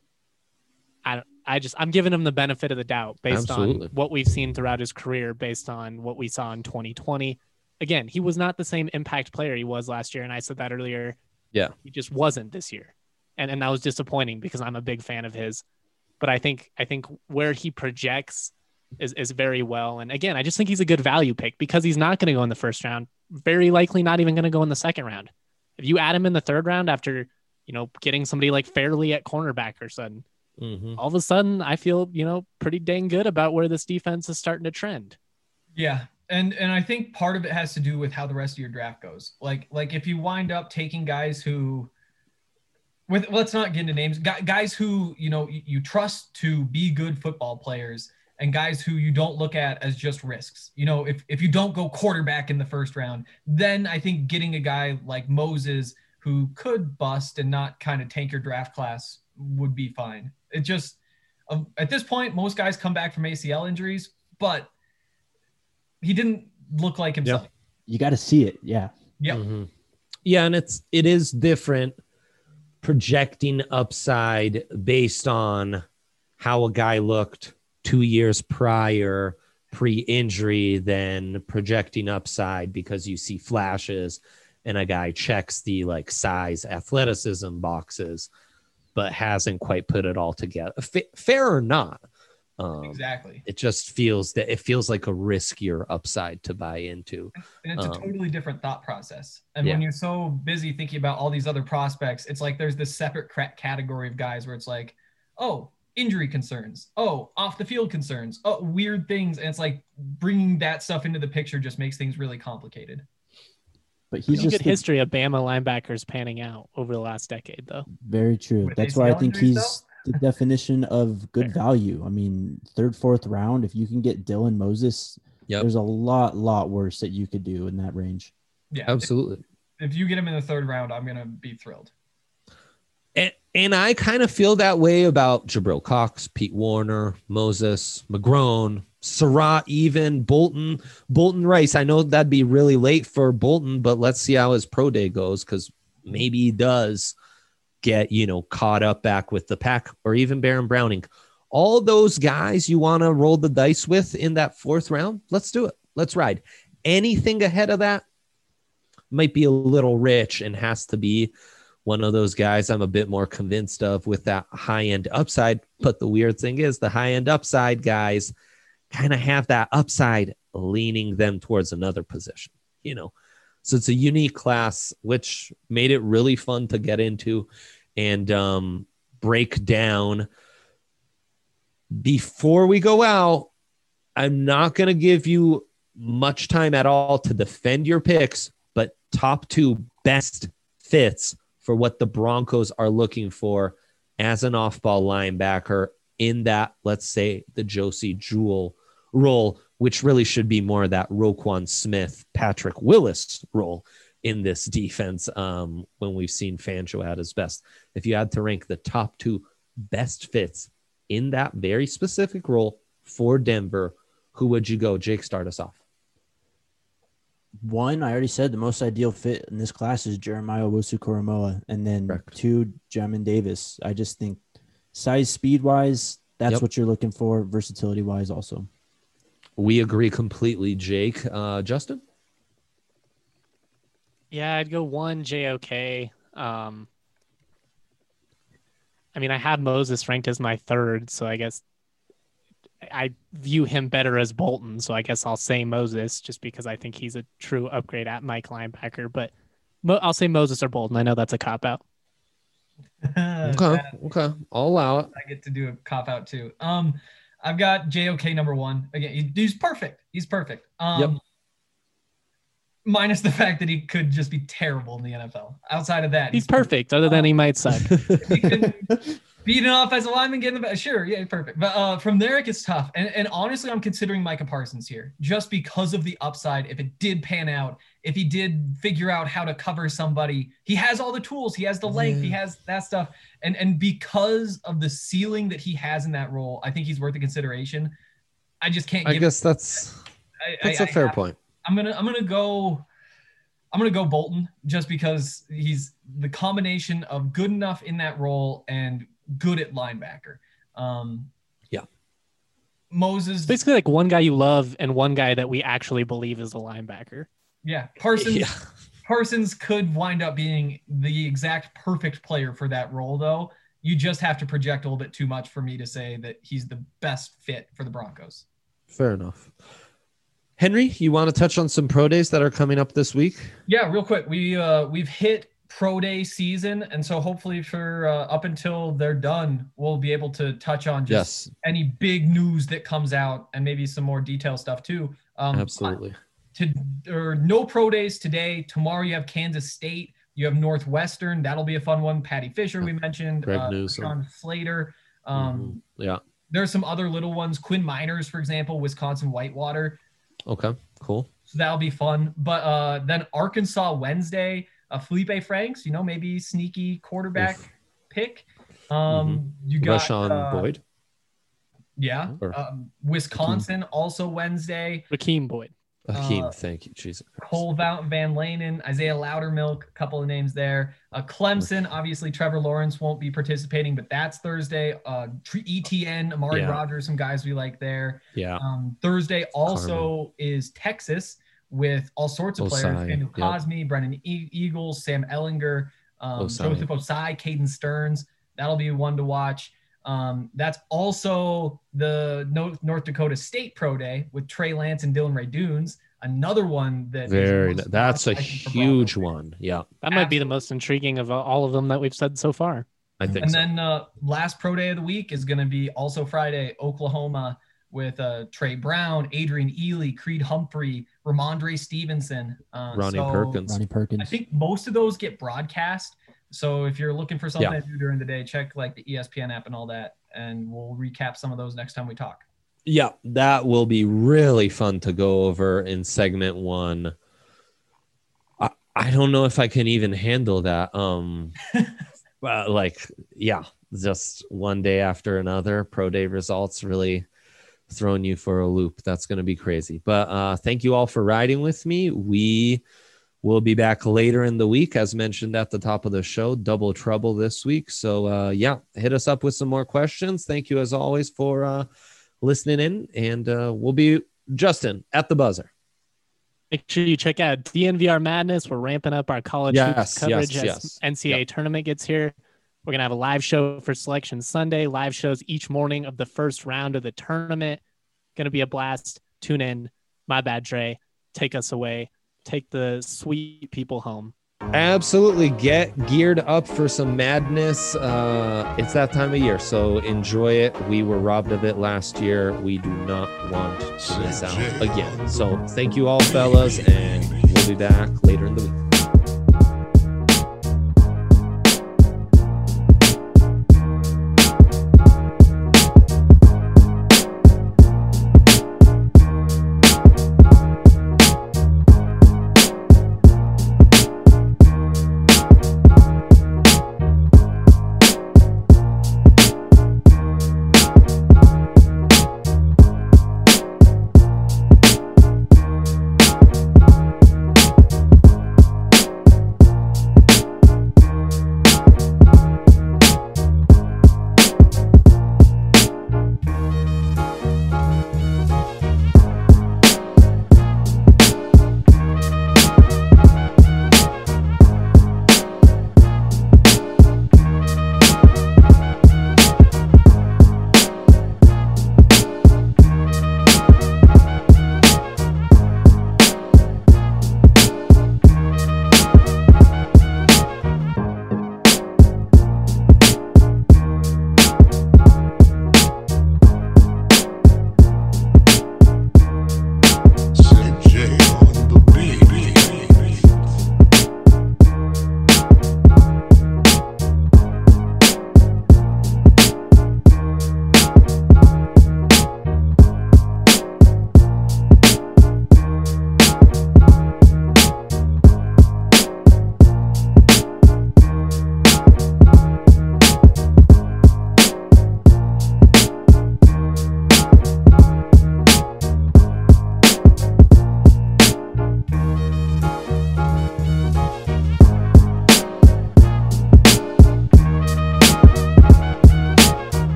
I, I just, I'm giving him the benefit of the doubt based Absolutely. on what we've seen throughout his career, based on what we saw in twenty twenty. Again, he was not the same impact player he was last year. And I said that earlier. Yeah. He just wasn't this year. And, and that was disappointing because I'm a big fan of his. But I think I think where he projects is, is very well. And again, I just think he's a good value pick because he's not going to go in the first round. Very likely not even going to go in the second round. If you add him in the third round after, you know, getting somebody like Fairley at cornerback or sudden, mm-hmm. all of a sudden I feel, you know, pretty dang good about where this defense is starting to trend. Yeah. And and I think part of it has to do with how the rest of your draft goes. Like, like if you wind up taking guys who, with let's not get into names, guys who, you know, you trust to be good football players and guys who you don't look at as just risks. You know, if, if you don't go quarterback in the first round, then I think getting a guy like Moses who could bust and not kind of tank your draft class would be fine. It just, um, at this point, most guys come back from A C L injuries, but he didn't look like himself. Yep. You got to see it. Yeah. Yeah. Mm-hmm. Yeah. And it's, it is different projecting upside based on how a guy looked two years prior pre-injury than projecting upside because you see flashes and a guy checks the like size athleticism boxes but hasn't quite put it all together. F- fair or not, um, exactly. It just feels that it feels like a riskier upside to buy into. And it's a um, totally different thought process. And yeah. when you're so busy thinking about all these other prospects, it's like there's this separate category of guys where it's like, oh, injury concerns. Oh, off the field concerns. Oh, weird things. And it's like bringing that stuff into the picture just makes things really complicated. But he's There's just a good history of Bama linebackers panning out over the last decade, though. Very true. With That's A C L why I think injuries, he's the definition of good value. I mean, third, fourth round, if you can get Dylan Moses, yep. there's a lot, lot worse that you could do in that range. Yeah, absolutely. If, if you get him in the third round, I'm going to be thrilled. And, and I kind of feel that way about Jabril Cox, Pete Warner, Moses, McGrone, Surratt, even Bolton, Bolton Rice. I know that'd be really late for Bolton, but let's see how his pro day goes because maybe he does get, you know, caught up back with the pack, or even Baron Browning. All those guys you want to roll the dice with in that fourth round, let's do it. Let's ride. Anything ahead of that might be a little rich and has to be one of those guys I'm a bit more convinced of with that high-end upside. But the weird thing is the high-end upside guys kind of have that upside leaning them towards another position, you know? So it's a unique class, which made it really fun to get into and um, break down. Before we go out, I'm not going to give you much time at all to defend your picks, but top two best fits for what the Broncos are looking for as an off-ball linebacker in that, let's say, the Josie Jewell role, which really should be more of that Roquan Smith, Patrick Willis role in this defense um, when we've seen Fangio at his best. If you had to rank the top two best fits in that very specific role for Denver, who would you go? Jake, start us off. One, I already said the most ideal fit in this class is Jeremiah Owusu-Koramoah, and then Correct. two, Jamin Davis. I just think size, speed-wise, that's yep. what you're looking for, versatility-wise also. We agree completely, Jake. Uh, Justin? Yeah, I'd go one, J O K. Um, I mean, I had Moses ranked as my third, so I guess I view him better as Bolton, so I guess I'll say Moses just because I think he's a true upgrade at Mike linebacker. But Mo- I'll say Moses or Bolton. I know that's a cop out. Okay, okay, I'll allow it. I get to do a cop out too. Um, I've got J O K number one again. He, he's perfect. He's perfect. Um, Yep. Minus the fact that he could just be terrible in the N F L. Outside of that, He's perfect, other than he might suck. He can beat an offensive lineman, get in the back. Sure, yeah, perfect. But uh, from there, it gets tough. And, and honestly, I'm considering Micah Parsons here just because of the upside. If it did pan out, if he did figure out how to cover somebody, he has all the tools. He has the length. He has that stuff. And and because of the ceiling that he has in that role, I think he's worth the consideration. I just can't. I give guess that's I, that's I, a fair I, point. I'm gonna I'm gonna go. I'm going to go Bolton just because he's the combination of good enough in that role and good at linebacker. Um, yeah. Moses. It's basically like one guy you love and one guy that we actually believe is a linebacker. Yeah. Parsons, Yeah. Parsons could wind up being the exact perfect player for that role, though. You just have to project a little bit too much for me to say that he's the best fit for the Broncos. Fair enough. Henry, you want to touch on some pro days that are coming up this week? Yeah, real quick. We uh we've hit pro day season, and so hopefully for uh, up until they're done, we'll be able to touch on just Yes. any big news that comes out and maybe some more detailed stuff too. Um, Absolutely. To or no pro days today. Tomorrow you have Kansas State. You have Northwestern. That'll be a fun one. Patty Fisher we mentioned. Greg uh, Newsome. Sean Slater. Um, Mhm. Yeah. There's some other little ones. Quinn Miners, for example, Wisconsin Whitewater. Okay. Cool. So that'll be fun. But uh, then Arkansas Wednesday, uh, Felipe Franks, you know, maybe sneaky quarterback Oof. pick. Um, You got Rashawn uh, Boyd. Yeah. Or- Um, Wisconsin also Wednesday. Rakeem Boyd. Hakeem, uh, thank you. Jesus Christ. Cole Van Van Lanen, Isaiah Loudermilk, a couple of names there. Uh, Clemson, obviously Trevor Lawrence won't be participating, but that's Thursday. Uh, E T N, Amari Yeah. Rogers, some guys we like there. Yeah. Um, Thursday also is Texas with all sorts of players. Osai, Daniel yep. Cosme, Brennan e- Eagles, Sam Ellinger, um, Osai. Joseph Osai, Caden Stearns. That'll be one to watch. Um, that's also the North, North Dakota State Pro Day with Trey Lance and Dylan Ray Dunes. Another one that is Very. most That's a watched, I think, for huge Broncos. one. Yeah. That might be the most intriguing of all of them that we've said so far. I think And so. then uh, last pro day of the week is going to be also Friday, Oklahoma with uh, Trey Brown, Adrian Ely, Creed Humphrey, Ramondre Stevenson. Uh, Ronnie so Perkins. Ronnie Perkins. I think most of those get broadcast. So if you're looking for something Yeah. to do during the day, check like the E S P N app and all that. And we'll recap some of those next time we talk. Yeah, that will be really fun to go over in segment one. I, I don't know if I can even handle that. Um, uh, like, yeah, just one day after another, pro day results really throwing you for a loop. That's going to be crazy. But uh, thank you all for riding with me. We will be back later in the week, as mentioned at the top of the show. Double trouble this week. So, uh, yeah, hit us up with some more questions. Thank you, as always, for uh, listening in. And uh, we'll be, Justin, at the buzzer. Make sure you check out D N V R Madness. We're ramping up our college Yes, hoops coverage yes, as yes. N C A A Yep. tournament gets here. We're going to have a live show for Selection Sunday, live shows each morning of the first round of the tournament. Going to be a blast. Tune in. My bad, Dre. Take us away. Take the sweet people home. Absolutely. Get geared up for some madness. Uh, it's that time of year, so enjoy it. We were robbed of it last year. We do not want to miss out again. So thank you all, fellas, and we'll be back later in the week.